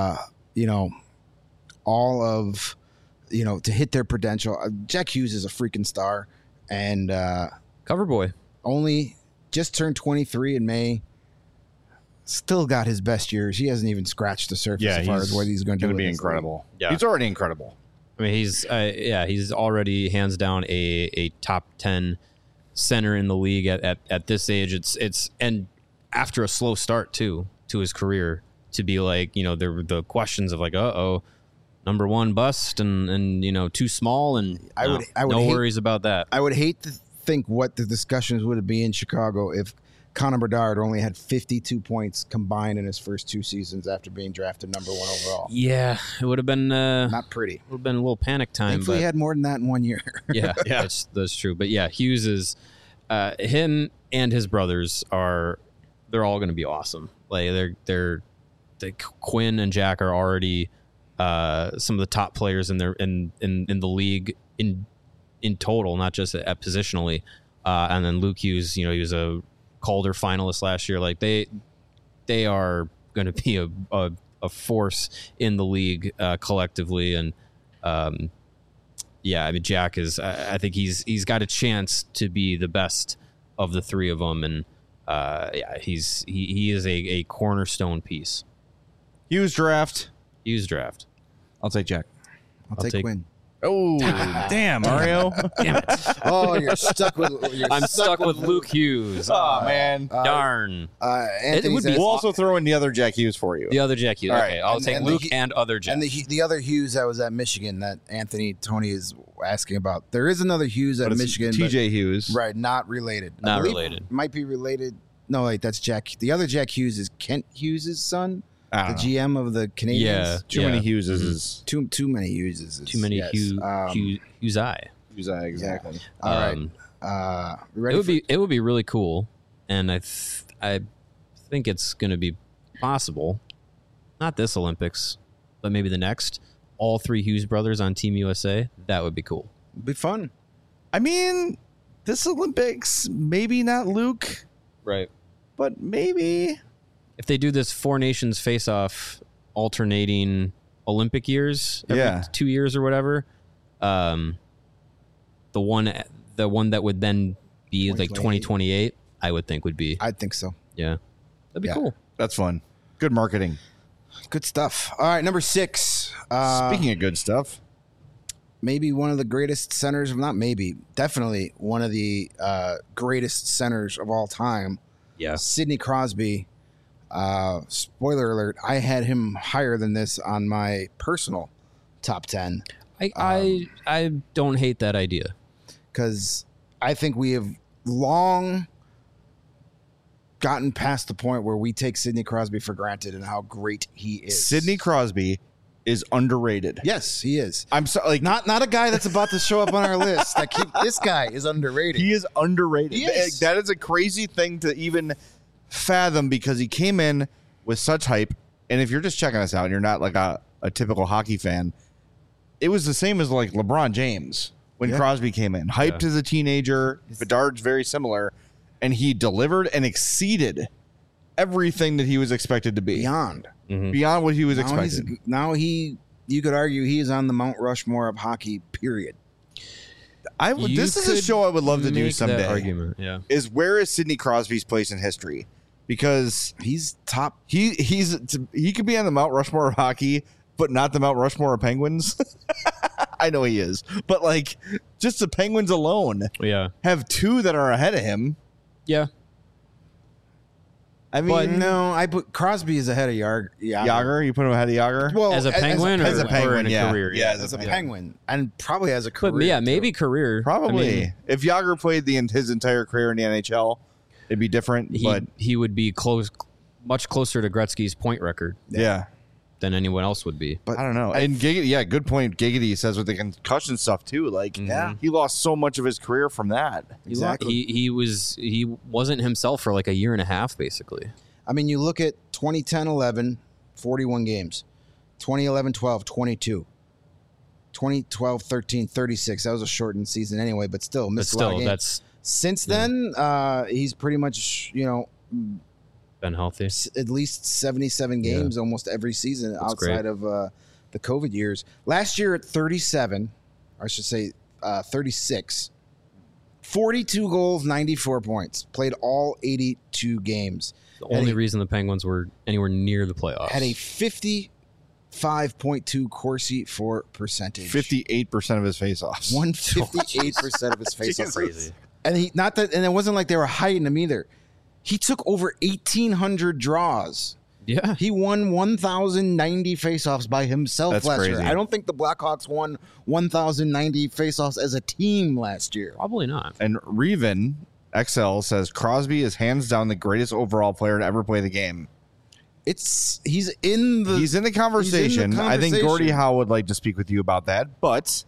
all of, to hit their potential. Jack Hughes is a freaking star, and Cover boy. only just turned 23 in May. Still got his best years. He hasn't even scratched the surface as far as what he's going to do. Going to with be this incredible. Yeah. He's already incredible. I mean, he's already hands down a top 10 center in the league at this age. It's and after a slow start too to his career, to be like, there were the questions of like, number one bust and too small, and I would no hate- worries about that. I would hate to think what the discussions would be in Chicago if Connor Bedard only had 52 points combined in his first 2 seasons after being drafted number 1 overall. Yeah, it would have been Not pretty. would have been a little panic time. Thankfully, he But had more than that in 1 year. yeah, that's true. But yeah, Hughes is him and his brothers they're all going to be awesome. Like Quinn and Jack are already some of the top players in the league in total, not just at positionally. And then Luke Hughes, he was a Calder finalist last year. Like they are going to be a force in the league collectively. And Jack is. I think he's got a chance to be the best of the three of them. And he is a cornerstone piece. Hughes draft. I'll take Jack. I'll take Quinn. Oh, damn, Mario. Damn it! Oh, you're stuck with. I'm stuck with Luke Hughes. Oh, man. Darn. Anthony's would be- We'll also throw in the other Jack Hughes for you. The other Jack Hughes. All Okay, right. I'll take and Luke the- and other Jack. And the other Hughes that was at Michigan that Tony is asking about. There is another Hughes at But it's Michigan. TJ Hughes. Right, not related. I Not believe related. Might be related. No, wait, that's Jack. The other Jack Hughes is Kent Hughes' son, I the don't know. GM of the Canadians. Yeah. Too many Hugheses is Too many Hughes. Too many yes. Hughes. Hughes, exactly. All right. We ready It would be really cool, and I think it's going to be possible. Not this Olympics, but maybe the next. All 3 Hughes brothers on Team USA. That would be cool. be fun. I mean, this Olympics, maybe not Luke, Right. but maybe. If they do this 4 nations face-off alternating Olympic years every 2 years or whatever, the one that would then be like 2028, I would think would be. I think so. Yeah. That'd be Yeah. cool. That's fun. Good marketing. Good stuff. All right, number 6. Speaking of good stuff, Maybe one of the greatest centers, not maybe, definitely one of the greatest centers of all time. Yeah. Sidney Crosby. Spoiler alert, I had him higher than this on my personal top 10 I don't hate that idea. because I think we have long gotten past the point where we take Sidney Crosby for granted and how great he is. Sidney Crosby is underrated. Yes, he is. I'm sorry, like Not a guy that's about to show up on our list. This guy is underrated. he is underrated. He is. That is a crazy thing to even fathom because he came in with such hype. And if you're just checking us out and you're not like a typical hockey fan, it was the same as like LeBron James when Yeah. Crosby came in. Hyped as a teenager. Bedard's very similar. And he delivered and exceeded everything that he was expected to be. Beyond. Beyond what he was Now expected. you could argue he is on the Mount Rushmore of hockey, period. This is a could show I would love to do make that someday. argument. Yeah. Is where is Sidney Crosby's place in history? Because He's top. he could be on the Mount Rushmore of hockey, but not the Mount Rushmore of Penguins. I know he is, but like just the Penguins alone Yeah. have 2 that are ahead of him. Yeah. I mean, No, I put Crosby is ahead of Yager, you put him ahead of Yager. Well, As a Penguin as a or Penguin, in a yeah. career? Yeah, as a Penguin, and probably as a career. But yeah, too. maybe career. Probably. I mean, If Yager played his entire career in the NHL, it'd be different. But he would be much closer to Gretzky's point record yeah. than anyone else would be. But I don't know. And Giggity, good point. Giggity says with the concussion stuff too. Like, he lost so much of his career from that. Exactly. He wasn't himself for like a year and a half, basically. I mean, you look at 2010-11, 41 games. 2011-12, 22. 2012-13, 36. That was a shortened season anyway, but still But missed a lot of still, games. that's Since then, he's pretty much, been healthy. at least 77 games almost every season outside great. of the COVID years. Last year at 37, or I should say 36, 42 goals, 94 points. Played all 82 games. The only reason the Penguins were anywhere near the playoffs. Had a 55.2 Corsi for percentage. 58% of his faceoffs. 158% of his faceoffs. crazy. And and it wasn't like they were hiding him either. He took over 1,800 draws. Yeah. He won 1,090 faceoffs by himself That's last crazy. year. I don't think the Blackhawks won 1,090 faceoffs as a team last year. Probably not. And Reven XL says Crosby is hands down the greatest overall player to ever play the game. He's in the conversation. I think Gordie Howe would like to speak with you about that, but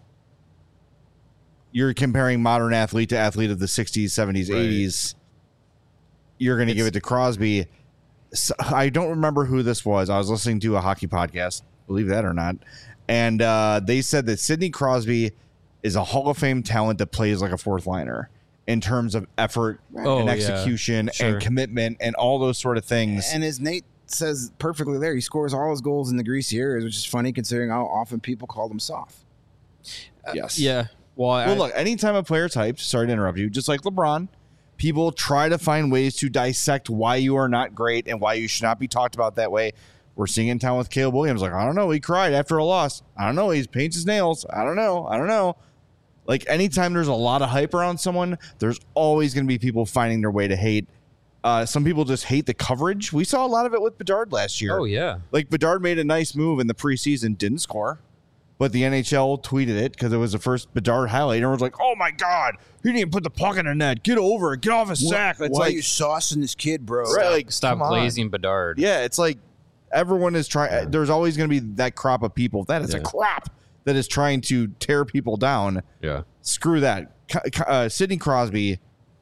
you're comparing modern athlete to athlete of the 60s, 70s, 80s. You're going to give it to Crosby. So, I don't remember who this was. I was listening to a hockey podcast, believe that or not, and they said that Sidney Crosby is a Hall of Fame talent that plays like a fourth liner in terms of effort and execution and commitment and all those sort of things. And as Nate says perfectly there, he scores all his goals in the greasy areas, which is funny considering how often people call them soft. Yes. Yeah. Well, Look, anytime a player's hyped, sorry to interrupt you, just like LeBron, people try to find ways to dissect why you are not great and why you should not be talked about that way. We're seeing in town with Caleb Williams. Like, I don't know. He cried after a loss. I don't know. He paints his nails. I don't know. Like, anytime there's a lot of hype around someone, there's always going to be people finding their way to hate. Some people just hate the coverage. We saw a lot of it with Bedard last year. Oh, yeah. Like, Bedard made a nice move in the preseason, didn't score. But the NHL tweeted it because it was the first Bedard highlight. And everyone's like, oh, my God. He didn't put the puck in the net. Get over it. Get off his sack. It's Why like, are you saucing this kid, bro? right, like, Stop come on. glazing Bedard. Yeah, it's like everyone is trying. There's always going to be that crop of people. That is a crop that is trying to tear people down. Yeah. Screw that. Sidney Crosby,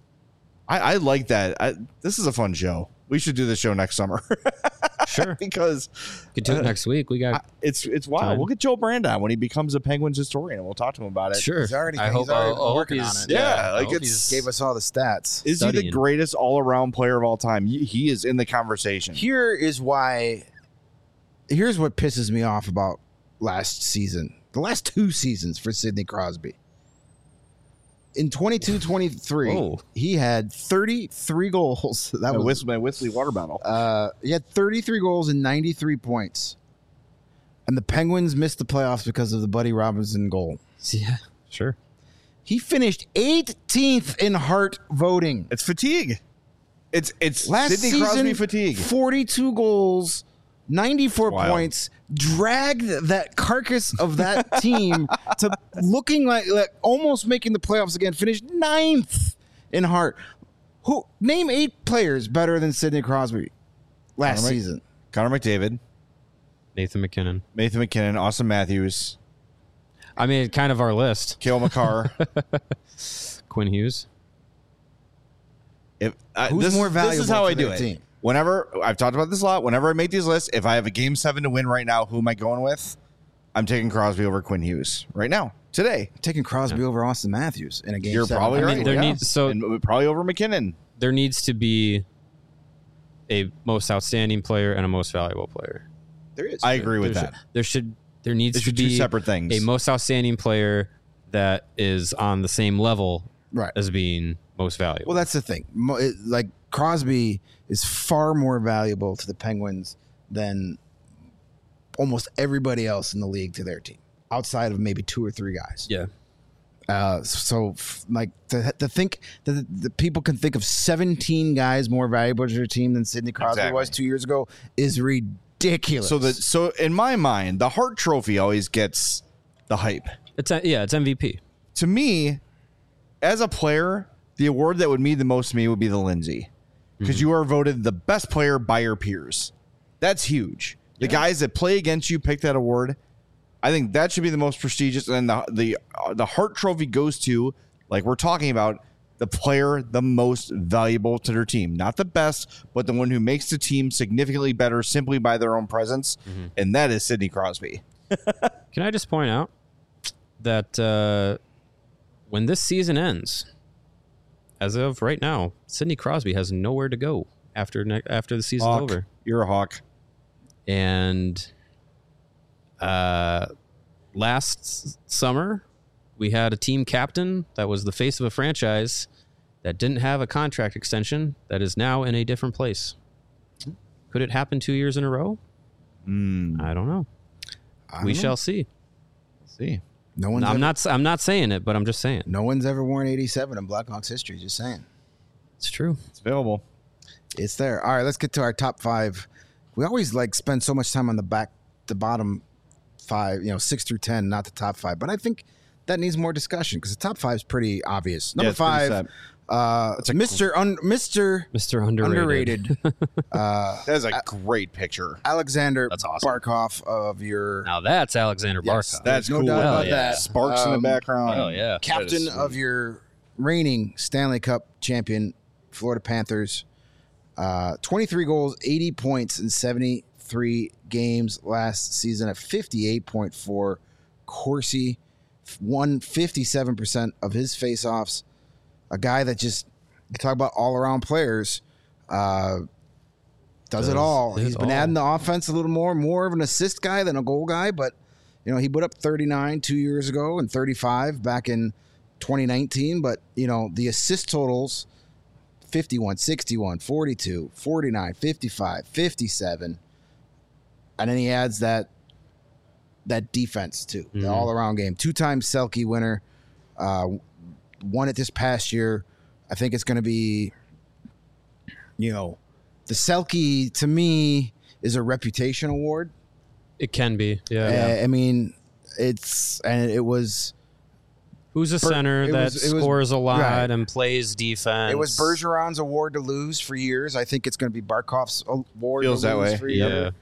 I like that. This is a fun show. We should do this show next summer. Sure. Because Could do it next week. We got it's wild. time. We'll get Joe Brand on when he becomes a Penguins historian and we'll talk to him about it. sure. He's already- I he's hope already I'll working he's- on it. Yeah, I like hope it's- he's- Gave us all the stats. Is he the Studying. greatest all-around player of all time? He is in the conversation. Here's what pisses me off about last season. The last two seasons for Sidney Crosby. In 22-23, Whoa. he had 33 goals. That was my Whistly water bottle. he had 33 goals and 93 points. And the Penguins missed the playoffs because of the Buddy Robinson goal. Yeah. Sure. He finished 18th in Hart voting. It's fatigue. It's Last Sidney season, Crosby fatigue. 42 goals, 94 Wild. points, dragged that carcass of that team to looking like almost making the playoffs again, finished 9th in Hart. Name 8 players better than Sidney Crosby last season. Connor McDavid, Nathan McKinnon. Nathan McKinnon, Austin Matthews, I mean, kind of our list. Cale Makar. Quinn Hughes. Who's more This is valuable how to I do their it. team? Whenever I've talked about this a lot, whenever I make these lists, if I have a game 7 to win right now, who am I going with? I'm taking Crosby over Quinn Hughes right now, today. Taking Crosby over Austin Matthews in a game. You're 7. probably I right. mean, there yeah. needs- so- and probably over McKinnon. There needs to be a most outstanding player and a most valuable player. There is. I agree with that. There needs These to are two be separate things. a most outstanding player that is on the same level Right. as being most valuable. Well, that's the thing. Like Crosby is far more valuable to the Penguins than almost everybody else in the league to their team, outside of maybe 2 or 3 guys. yeah. Like to think that the people can think of 17 guys more valuable to their team than Sidney Crosby Exactly. was 2 years ago is ridiculous. So in my mind, the Hart Trophy always gets the hype. It's MVP. To me, as a player, the award that would mean the most to me would be the Lindsay, because you are voted the best player by your peers. That's huge. The guys that play against you pick that award. I think that should be the most prestigious. And the Hart Trophy goes to, like we're talking about, the player the most valuable to their team. Not the best, but the one who makes the team significantly better simply by their own presence. And that is Sidney Crosby. Can I just point out that when this season ends, as of right now, Sidney Crosby has nowhere to go after the season's Hawk. over. You're a Hawk. And last summer, we had a team captain that was the face of a franchise that didn't have a contract extension that is now in a different place. Could it happen 2 years in a row? I don't know. We shall see. See. No one's I'm not saying it, but I'm just saying. No one's ever worn 87 in Blackhawks history. Just saying. It's true. It's available. It's there. All right, let's get to our top 5. We always spend so much time on the bottom 5, 6 through 10, not the top 5. But I think that needs more discussion because the top 5 is pretty obvious. Number 5, Mr. Underrated. That is a great picture. Alexander That's awesome. Barkov of your Now that's Alexander Yes, Barkov. That's no cool. doubt about yeah. that. Sparks in the background. Oh yeah. captain of your reigning Stanley Cup champion Florida Panthers. 23 goals, 80 points in 73 games last season at 58.4 Corsi. Won 57% of his faceoffs. A guy that just, you talk about all-around players, does it all. it He's been all. adding the offense a little more of an assist guy than a goal guy, but he put up 39 2 years ago and 35 back in 2019, but the assist totals 51, 61, 42, 49, 55, 57. And then he adds that defense too, the all-around game. 2-time Selke winner, won it this past year. I think it's going to be, the Selke to me is a reputation award. It can be. Yeah. I mean, it was Who's a center it that was- scores a lot right. and plays defense? It was Bergeron's award to lose for years. I think it's going to be Barkov's award Feels to that lose way. for Yeah.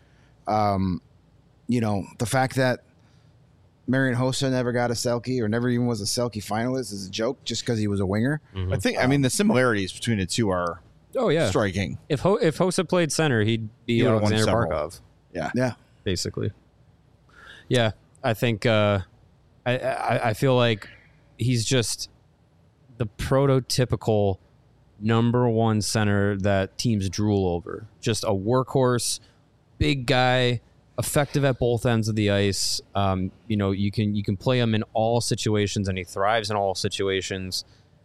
years. The fact that Marian Hossa never got a Selke or never even was a Selke finalist is a joke just because he was a winger. I think. I mean, the similarities between the two are Oh yeah. striking. If Hossa played center, he'd be He would've won Alexander several. Barkov, Yeah. basically. Yeah, I think I feel like he's just the prototypical number one center that teams drool over. Just a workhorse, big guy, effective at both ends of the ice. You can play him in all situations, and he thrives in all situations.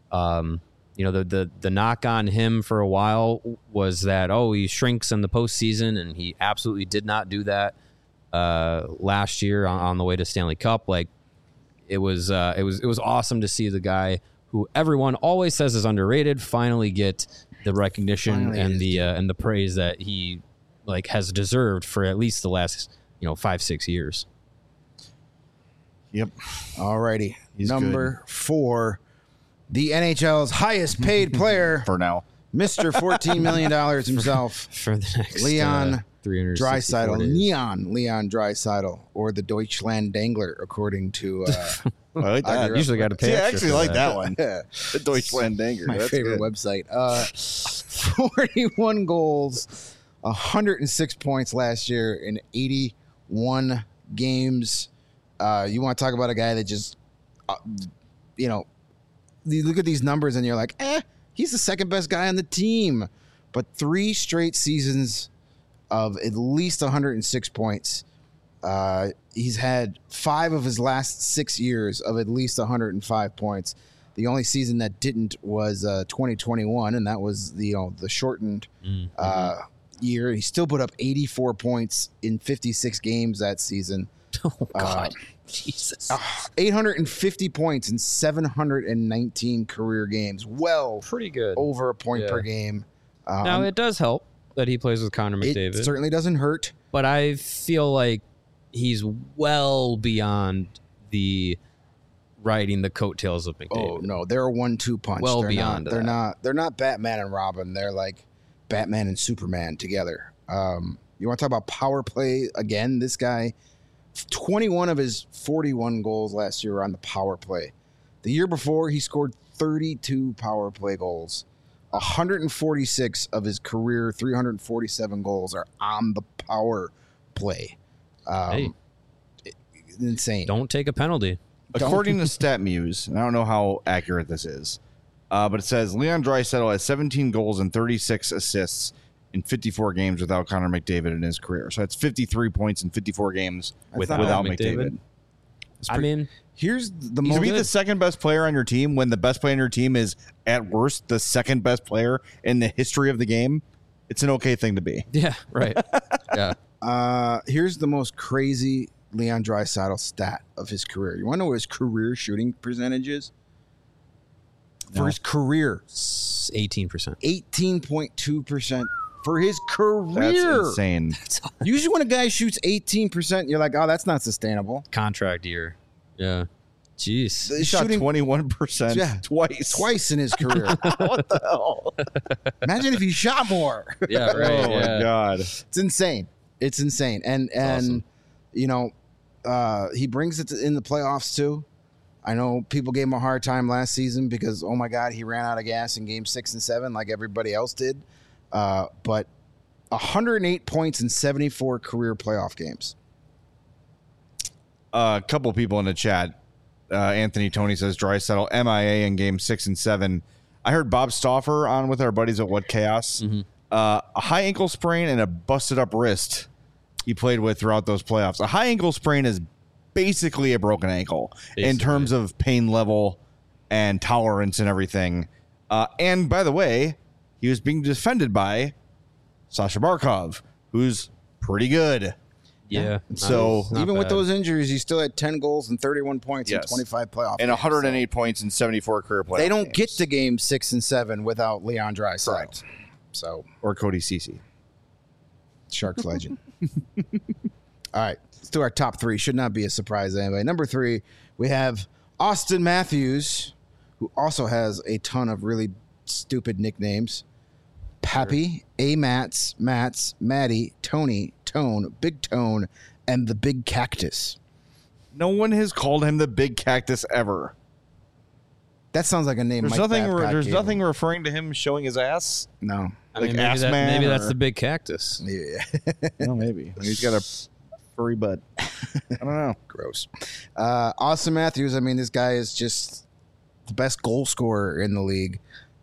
The knock on him for a while was that he shrinks in the postseason, and he absolutely did not do that last year on the way to Stanley Cup. Like it was awesome to see the guy who everyone always says is underrated finally get the recognition Finally and the praise that he has deserved for at least the last 5-6 years. Yep. Alrighty. He's Number 4, the NHL's highest paid player, For now. Mr. $14 million himself, For the next Leon 364 Draisaitl. days. Leon Draisaitl, or the Deutschland Dangler, according to I like I that. agree. Usually got to pay. See, I extra actually for like that one. yeah, The Deutschland Danger. my That's favorite good. website. 41 goals, 106 points last year in 81 games. You want to talk about a guy that just, you look at these numbers and you're like, he's the second best guy on the team. But 3 straight seasons of at least 106 points. He's had 5 of his last 6 years of at least 105 points. The only season that didn't was 2021, and that was the shortened year. He still put up 84 points in 56 games that season. Oh God, Jesus! 850 points in 719 career games. Well, Pretty good. over a point Yeah. per game. Now it does help that he plays with Connor McDavid, It certainly doesn't hurt. but I feel like he's well beyond the riding the coattails of McDavid. Oh no, they're a 1-2 punch. Well they're beyond not, that. They're not Batman and Robin. They're like Batman and Superman together. You want to talk about power play again? This guy, 21 of his 41 goals last year were on the power play. The year before, he scored 32 power play goals. 146 of his career 347 goals are on the power play. Hey. Insane. Don't take a penalty. According to StatMuse, and I don't know how accurate this is, but it says Leon Draisaitl has 17 goals and 36 assists in 54 games without Connor McDavid in his career. So that's 53 points in 54 games Without without McDavid. McDavid. I mean, Here's the To most. be the second best player on your team when the best player on your team is at worst the second best player in the history of the game, it's an okay thing to be. yeah, right. Yeah. Here's the most crazy Leon Draisaitl stat of his career. You want to know what his career shooting percentage is? For his career, 18%. 18.2% for his career. That's insane. Usually when a guy shoots 18%, you're like, oh, that's not sustainable. Contract year. Yeah. Jeez. He shot 21% twice in his career. What the hell? Imagine if he shot more. Yeah, right. Oh my yeah. God. It's insane. It's insane. And awesome. you know, he brings it in the playoffs too. I know people gave him a hard time last season because, oh my God, he ran out of gas in game 6 and 7 like everybody else did. But 108 points in 74 career playoff games. A couple people in the chat. Anthony Tony says Draisaitl MIA in game 6 and 7. I heard Bob Stauffer on with our buddies at What Chaos. Mm-hmm. A high ankle sprain and a busted up wrist he played with throughout those playoffs. A high ankle sprain is basically a broken ankle in terms of pain level and tolerance and everything. And by the way, he was being defended by Sasha Barkov, who's pretty good. Yeah. So Not even with bad. those injuries, he still had 10 goals and 31 points in 25 playoff and games. 108 points in 74 career playoffs. They don't get to game 6 and 7 without Leon Draisaitl. Correct. So, or Cody Ceci. Sharks legend. All right, let's do our top 3. Should not be a surprise to anybody. Number 3, we have Austin Matthews, who also has a ton of really stupid nicknames. Pappy, A-Mats, Mats, Matty, Tony, Tone, Big Tone, and the Big Cactus. No one has called him the Big Cactus ever. That sounds like a name. There's Mike nothing. Babcock There's gave nothing him. referring to him showing his ass. No. I like mean, ass maybe, man maybe that's or- the big cactus. Yeah. No, maybe he's got a furry butt. I don't know. Gross. Austin Matthews, I mean, this guy is just the best goal scorer in the league.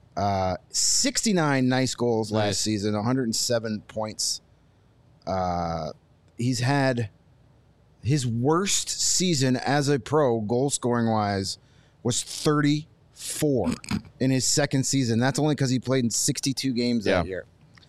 69 nice goals Nice. last season, 107 points. He's had his worst season as a pro, goal scoring wise, was 34 in his second season. That's only because he played in 62 games that year.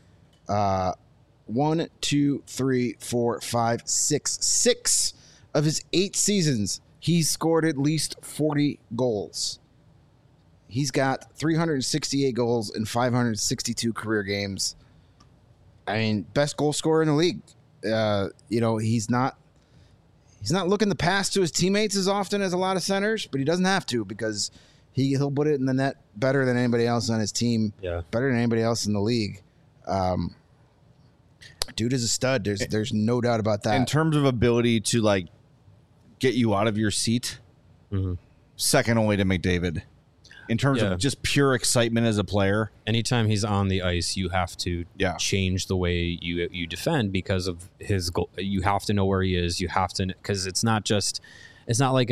1, 2, 3, 4, 5, 6. 6 of his 8 seasons, he's scored at least 40 goals. He's got 368 goals in 562 career games. I mean, best goal scorer in the league. You know, he's not looking the pass to his teammates as often as a lot of centers, but he doesn't have to because he'll put it in the net better than anybody else on his team. Yeah. Better than anybody else in the league. Dude is a stud. There's no doubt about that. In terms of ability to like get you out of your seat, second only to McDavid. In terms Yeah. of just pure excitement as a player, Anytime he's on the ice, you have to change the way you defend because of his goal. You have to know where he is. You have to, because it's not like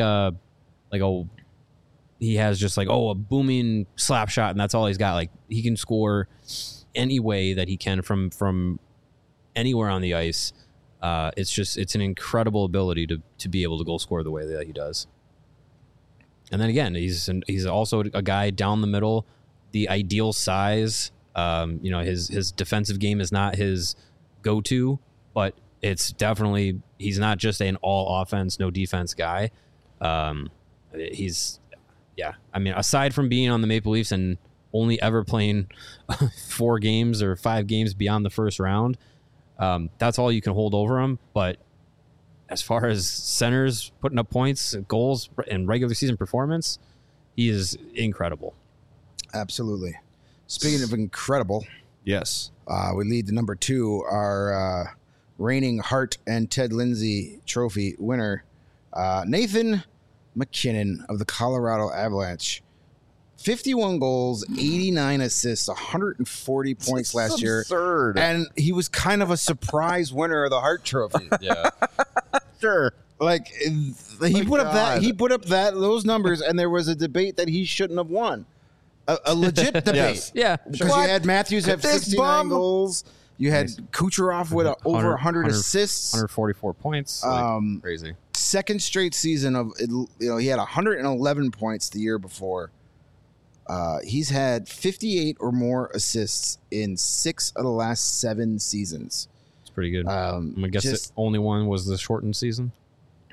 he has just like, a booming slap shot and that's all he's got. Like he can score any way that he can from anywhere on the ice. It's an incredible ability to be able to goal score the way that he does. And then again, he's also a guy down the middle, the ideal size. His defensive game is not his go-to, but it's definitely, he's not just an all offense, no defense guy. Aside from being on the Maple Leafs and only ever playing 4 games or 5 games beyond the first round, that's all you can hold over him. But as far as centers putting up points, goals, and regular season performance, he is incredible. Absolutely. Speaking of incredible, yes, we lead to number 2, our reigning Hart and Ted Lindsay Trophy winner, Nathan McKinnon of the Colorado Avalanche. 51 goals, 89 assists, 140 points last year. Absurd. And he was kind of a surprise winner of the Hart Trophy. Yeah. Sure. Like he put up those numbers, and there was a debate that he shouldn't have won. A legit debate. Yes. Yeah. Because you had Matthews have This 69 bum. goals. You had Kucherov with over 100 assists. 144 points. Crazy. Second straight season of, he had 111 points the year before. He's had 58 or more assists in 6 of the last 7 seasons. It's pretty good. I'm going to guess just- the only one was the shortened season.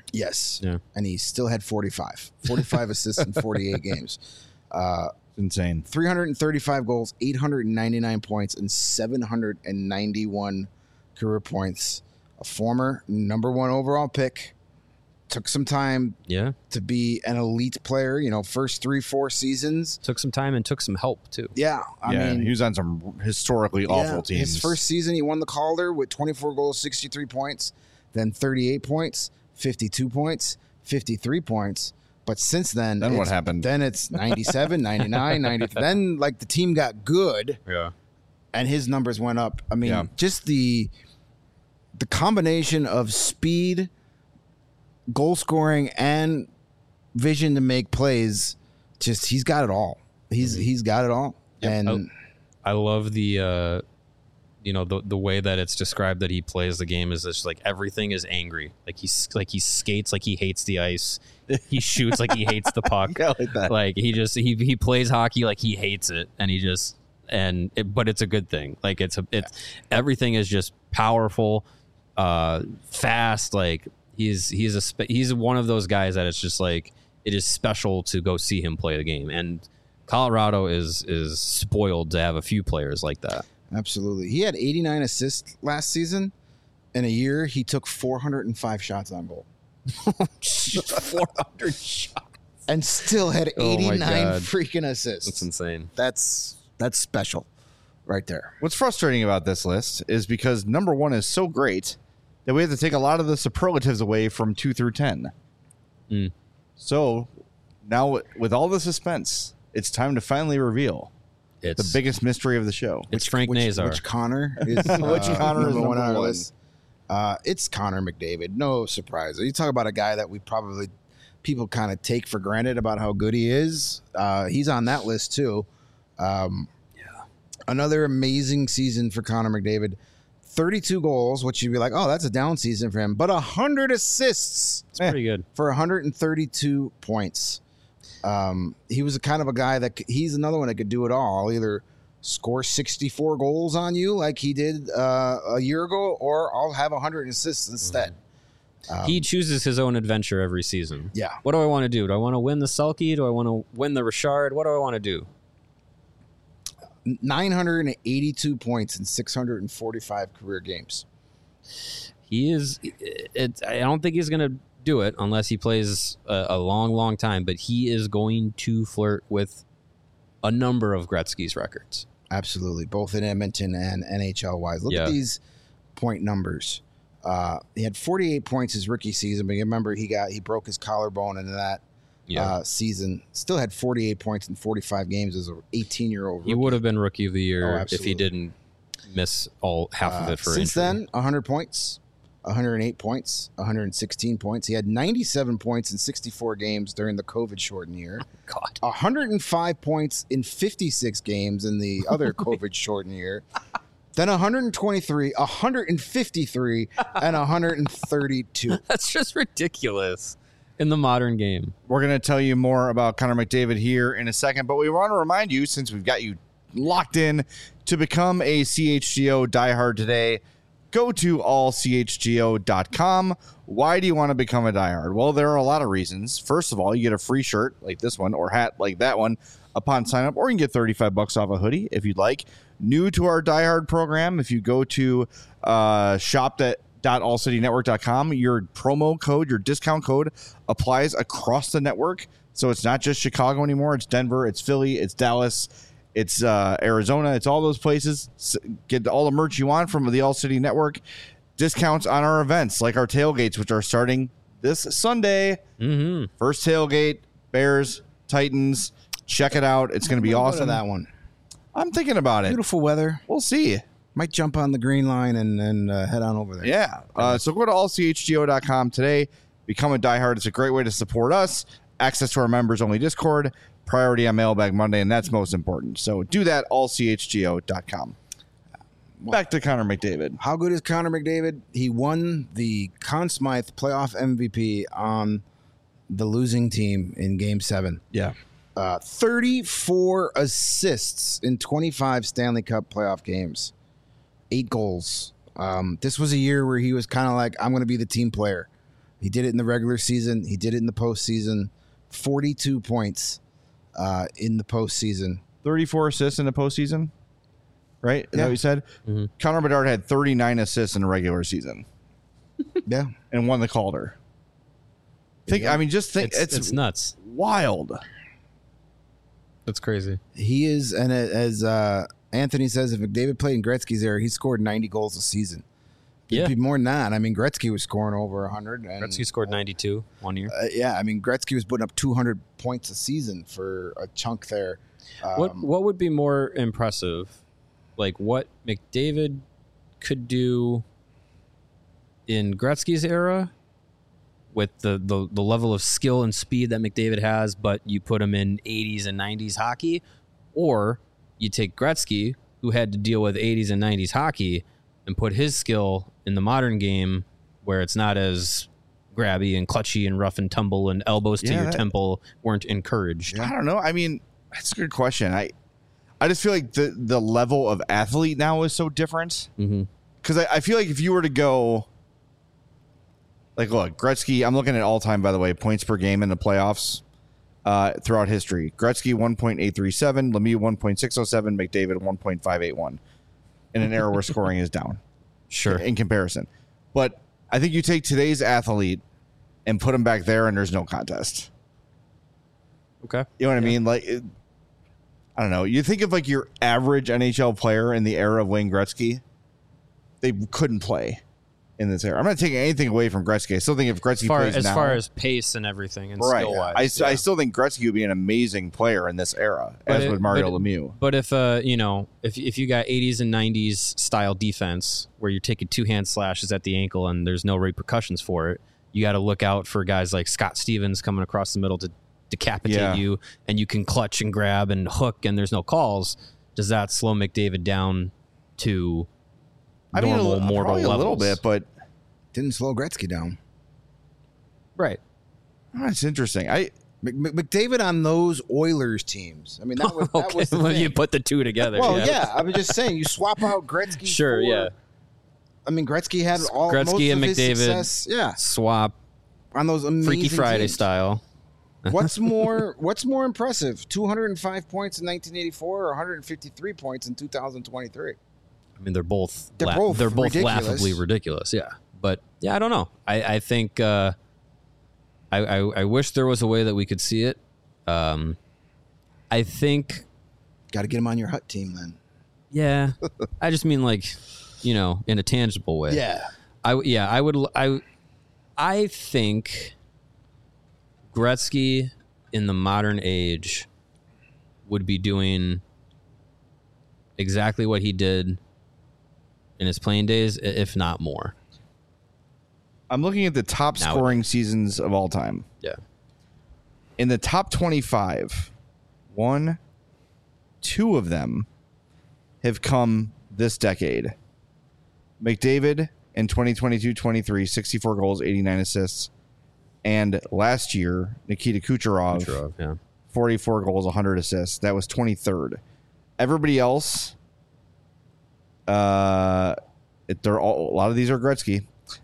Yes. Yeah. And he still had 45 assists in 48 games. Insane. 335 goals, 899 points, and 791 career points. A former number 1 overall pick. Took some time Yeah. to be an elite player, first 3-4 seasons. Took some time and took some help too. Yeah. I mean, he was on some historically awful teams. His first season, he won the Calder with 24 goals, 63 points, then 38 points, 52 points, 53 points. But since then, what happened? Then it's 97, 99, 90. Then, the team got good. Yeah. And his numbers went up. I mean, Yeah. just the combination of speed, goal scoring, and vision to make plays, just he's got it all. He's got it all. Yep. And I love the the way that it's described that he plays the game is just like everything is angry. Like he skates like he hates the ice. He shoots like he hates the puck. Yeah, like that. Like he plays hockey like he hates it, and but it's a good thing. Like it's everything is just powerful, fast. Like he's one of those guys that it's just like it is special to go see him play the game. And Colorado is spoiled to have a few players like that. absolutely. He had 89 assists last season. In a year, he took 405 shots on goal. 400 shots. And still had Oh my 89 God. freaking assists. That's insane. That's special right there. What's frustrating about this list is because number 1 is so great that we have to take a lot of the superlatives away from 2 through 10. Mm. So now, with all the suspense, it's time to finally reveal It's the biggest mystery of the show. It's Frank Nazar. Which Connor is Which Connor is number 1 on our number 1? list? It's Connor McDavid. No surprise. You talk about a guy that people kind of take for granted about how good he is. He's on that list too. Another amazing season for Connor McDavid. 32 goals, which you'd be like, oh, that's a down season for him. But 100 assists It's pretty good. for 132 points. He was a kind of a guy he's another one that could do it all. Either score 64 goals on you like he did a year ago, or I'll have 100 assists instead. He chooses his own adventure every season. Yeah. What do I want to do? Do I want to win the Selke? Do I want to win the Richard? What do I want to do? 982 points in 645 career games. He is. I don't think he's going to do it unless he plays a long, long time. But he is going to flirt with a number of Gretzky's records. Absolutely, both in Edmonton and NHL wise. Look Yeah. at these point numbers. He had 48 points his rookie season, but you remember he broke his collarbone in that season. Still had 48 points in 45 games as an 18-year-old rookie. He would have been Rookie of the Year if absolutely. he didn't miss half of it for Since injury. then, 100 points, 108 points, 116 points. He had 97 points in 64 games during the COVID-shortened year. God. 105 points in 56 games in the other COVID-shortened year. Then 123, 153, and 132. That's just ridiculous in the modern game. We're going to tell you more about Connor McDavid here in a second, but we want to remind you, since we've got you locked in, to become a CHGO diehard today, go to allchgo.com. Why do you want to become a diehard? Well, there are a lot of reasons. First of all, you get a free shirt like this one or hat like that one upon sign up, or you can get $35 off a hoodie if you'd like. New to our diehard program, if you go to shop.allcitynetwork.com, your promo code, your discount code applies across the network. So it's not just Chicago anymore. It's Denver, it's Philly, it's Dallas, it's Arizona, it's all those places. Get all the merch you want from the All City Network. Discounts on our events like our tailgates, which are starting this Sunday. Mm-hmm. First tailgate, Bears, Titans. Check it out. It's going to be Go to awesome. that one. I'm thinking about it. Beautiful weather. We'll see. Might jump on the green line and head on over there. Yeah. So go to allchgo.com today. Become a diehard. It's a great way to support us. Access to our members-only Discord. Priority on Mailbag Monday, and that's most important. So do that, allchgo.com. Back to Connor McDavid. How good is Connor McDavid? He won the Conn Smythe playoff MVP on the losing team in Game 7. Yeah. 34 assists in 25 Stanley Cup playoff games. 8 goals. This was a year where he was kind of like, I'm going to be the team player. He did it in the regular season. He did it in the postseason. 42 points in the postseason. 34 assists in the postseason, right? Is that what you said? Mm-hmm. Connor Bedard had 39 assists in the regular season Yeah. and won the Calder. Just think It's nuts. wild. That's crazy. He is, and as Anthony says, if McDavid played in Gretzky's era, he scored 90 goals a season. It'd be more than that. I mean, Gretzky was scoring over 100. And, Gretzky scored 92 one year. Gretzky was putting up 200 points a season for a chunk there. What would be more impressive? Like what McDavid could do in Gretzky's era with the level of skill and speed that McDavid has, but you put him in 80s and 90s hockey, or you take Gretzky, who had to deal with 80s and 90s hockey, and put his skill in the modern game where it's not as grabby and clutchy and rough and tumble and elbows to your temple weren't encouraged. I don't know. I mean, that's a good question. I just feel like the level of athlete now is so different. Because I feel like if you were to go, like, look, Gretzky, I'm looking at all time, by the way, points per game in the playoffs throughout history. Gretzky, 1.837, Lemieux, 1.607, McDavid, 1.581 in an era where scoring is down. Sure. In comparison. But I think you take today's athlete and put him back there and there's no contest. Okay. You know what I mean? Like, I don't know. You think of like your average NHL player in the era of Wayne Gretzky, they couldn't play in this era. I'm not taking anything away from Gretzky. I still think if Gretzky plays now, as far as pace and everything and right, skill-wise. I still think Gretzky would be an amazing player in this era, as would Mario Lemieux. But if if you got 80s and 90s style defense where you're taking two-hand slashes at the ankle and there's no repercussions for it, you got to look out for guys like Scott Stevens coming across the middle to decapitate you, and you can clutch and grab and hook and there's no calls. Does that slow McDavid down to normal mortal levels? A little bit, but didn't slow Gretzky down. Right. That's interesting. McDavid on those Oilers teams. I mean, that was the thing. You put the two together. Well, I was just saying, you swap out Gretzky. Sure, for, I mean, Gretzky had all Gretzky most and of his McDavid success, swap on those amazing Freaky Friday teams. style. What's more impressive? 205 points in 1984 or 153 points in 2023? I mean, they're both ridiculous. laughably ridiculous. Yeah. But yeah, I don't know. I think I wish there was a way that we could see it. I think got to get him on your Hut team then. Yeah. I just mean like, in a tangible way. Yeah. I think Gretzky in the modern age would be doing exactly what he did in his playing days, if not more. I'm looking at the top scoring seasons of all time. Yeah. In the top 25, 2 of them have come this decade. McDavid in 2022-23, 64 goals, 89 assists. And last year, Nikita Kucherov 44 goals, 100 assists. That was 23rd. Everybody else, a lot of these are Gretzky.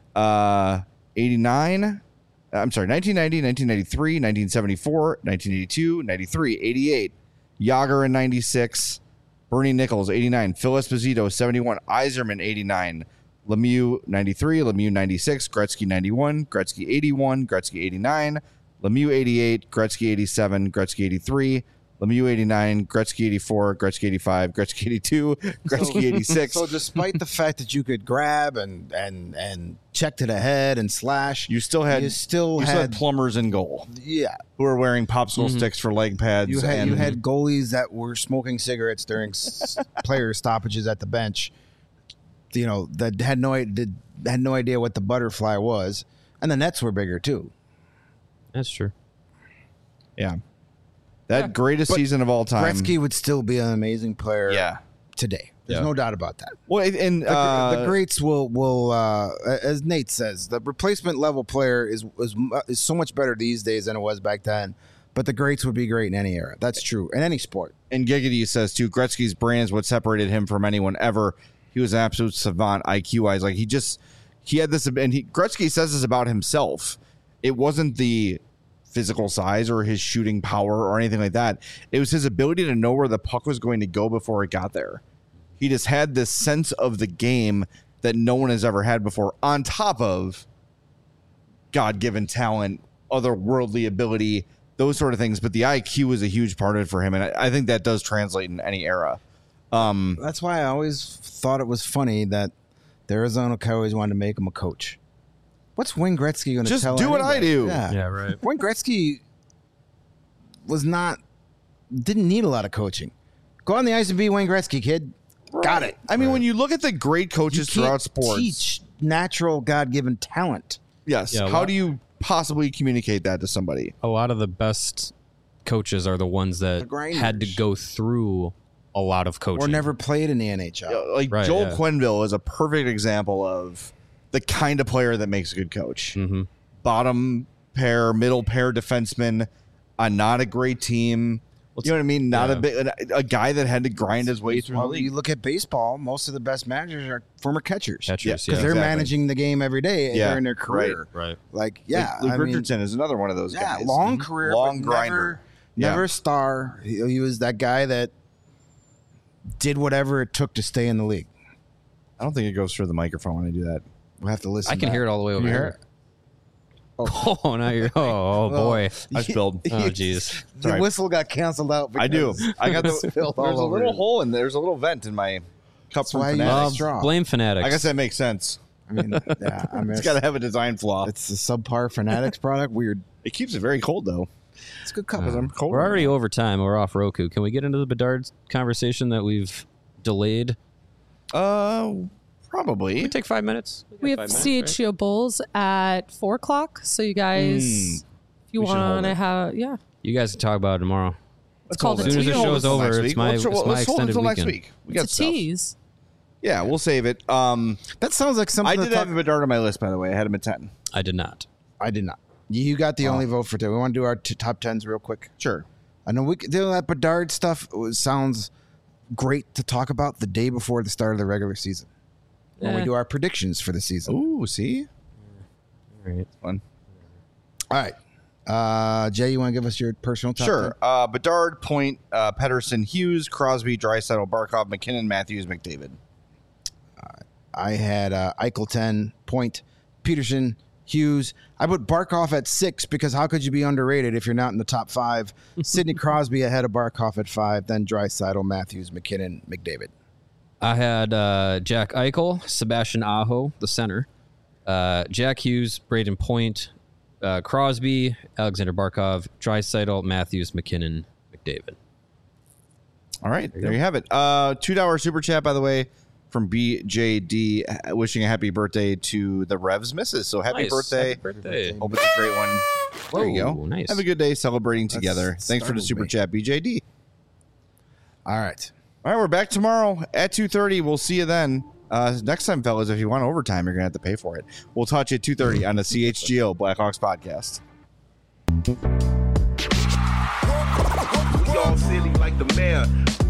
89, 1990, 1993, 1974, 1982, 93, 88. Yager in 96. Bernie Nichols, 89. Phil Esposito, 71. Yzerman, 89. Lemieux, 93. Lemieux, 96. Gretzky, 91. Gretzky, 81. Gretzky, 89. Lemieux, 88. Gretzky, 87. Gretzky, 83. Lemieux, 89. Gretzky, 84. Gretzky, 85. Gretzky, 82. Gretzky, 86. So despite the fact that you could grab and check to the head and slash, you still had plumbers in goal. Yeah. Who were wearing popsicle sticks for leg pads. You had goalies that were smoking cigarettes during player stoppages at the bench. That had no idea what the butterfly was, and the nets were bigger too. That's true. Yeah, greatest season of all time. Gretzky would still be an amazing player. Yeah. Today, there's no doubt about that. Well, and the greats will as Nate says, the replacement level player is so much better these days than it was back then. But the greats would be great in any era. That's true in any sport. And Giggity says too, Gretzky's brain is what separated him from anyone ever. He was an absolute savant IQ-wise. Like he had this, and Gretzky says this about himself. It wasn't the physical size or his shooting power or anything like that. It was his ability to know where the puck was going to go before it got there. He just had this sense of the game that no one has ever had before, on top of God-given talent, otherworldly ability, those sort of things. But the IQ was a huge part of it for him, and I think that does translate in any era. That's why I always thought it was funny that the Arizona Coyotes wanted to make him a coach. What's Wayne Gretzky going to tell? Just do what I do. Yeah, right. Wayne Gretzky didn't need a lot of coaching. Go on the ice and be Wayne Gretzky, kid. Right. Got it. I mean, when you look at the great coaches throughout sports, teach natural God-given talent. yes. Yeah, How do you possibly communicate that to somebody? A lot of the best coaches are the ones that grinders. had to go through a lot of coaching. Or never played in the NHL. Like Right, Joel yeah. Quenneville is a perfect example of the kind of player that makes a good coach. Mhm. Bottom pair, middle pair defenseman, not a great team. You know what I mean? Not a guy that had to grind his way through the Well, league. you look at baseball, most of the best managers are former catchers. Catchers, Because yeah. they're Exactly. managing the game every day Yeah, during their career. Right. Like, yeah. Luke I mean, Richardson is another one of those yeah, guys. long career, long but grinder. Never Yeah. a star. He was that guy that did whatever it took to stay in the league. I don't think it goes through the microphone when I do that. We'll have to listen. I can hear it all the way over you hear here. Oh, now you're. Oh, boy. I spilled. Oh, jeez. The Sorry. whistle got canceled out. I do. because I got the. spilled all There's a over little it. hole in there's a little vent in my cup from why you- Fanatics. straw. Blame Fanatics. I guess that makes sense. I mean, yeah. I mean, It's got to have a design flaw. it's a subpar Fanatics product. Weird. It keeps it very cold though. It's a good cup. I'm cold. We're already over time. We're off Roku. Can we get into the Bedard conversation that we've delayed? Probably. Can we take 5 minutes? We have CHGO Bulls at 4 o'clock. So you guys, if you We should hold want to it. have, yeah. You guys can talk about it tomorrow. It's called As soon as the show's over, it's my let's hold it extended until next weekend. week. We got It's a stuff. tease. Yeah, we'll save it. That sounds like something. I to did talk- have Bedard on my list, by the way. I had him at 10. I did not. I did not. You got the only vote for today. We want to do our top tens real quick. Sure. I know we could do that Bedard stuff. Sounds great to talk about the day before the start of the regular season when we Yeah. do our predictions for the season. Ooh, see? All right. Fun. All right, Jay, you want to give us your personal top? Sure. Bedard, Point, Pedersen, Hughes, Crosby, Draisaitl, Barkov, McKinnon, Matthews, McDavid. 10? I had Eichel 10, Point, Peterson, Hughes. I put Barkov at 6 because how could you be underrated if you're not in the top 5? Sidney Crosby ahead of Barkov at 5, then Draisaitl, Matthews, McKinnon, McDavid. I had Jack Eichel, Sebastian Aho, the center, Jack Hughes, Braden Point, Crosby, Alexander Barkov, Draisaitl, Matthews, McKinnon, McDavid. All right. There you have it. $2 super chat, by the way, from BJD, wishing a happy birthday to the Revs misses. So happy Nice. birthday. Happy birthday. Hope it's a great one. There you Whoa, go. nice. Have a good day celebrating together. Thanks for the startled super me. chat, BJD. All right. All right, we're back tomorrow at 2:30. We'll see you then. Next time, fellas, if you want overtime, you're going to have to pay for it. We'll touch you at 2:30 on the CHGO Blackhawks podcast. We all silly like the mayor.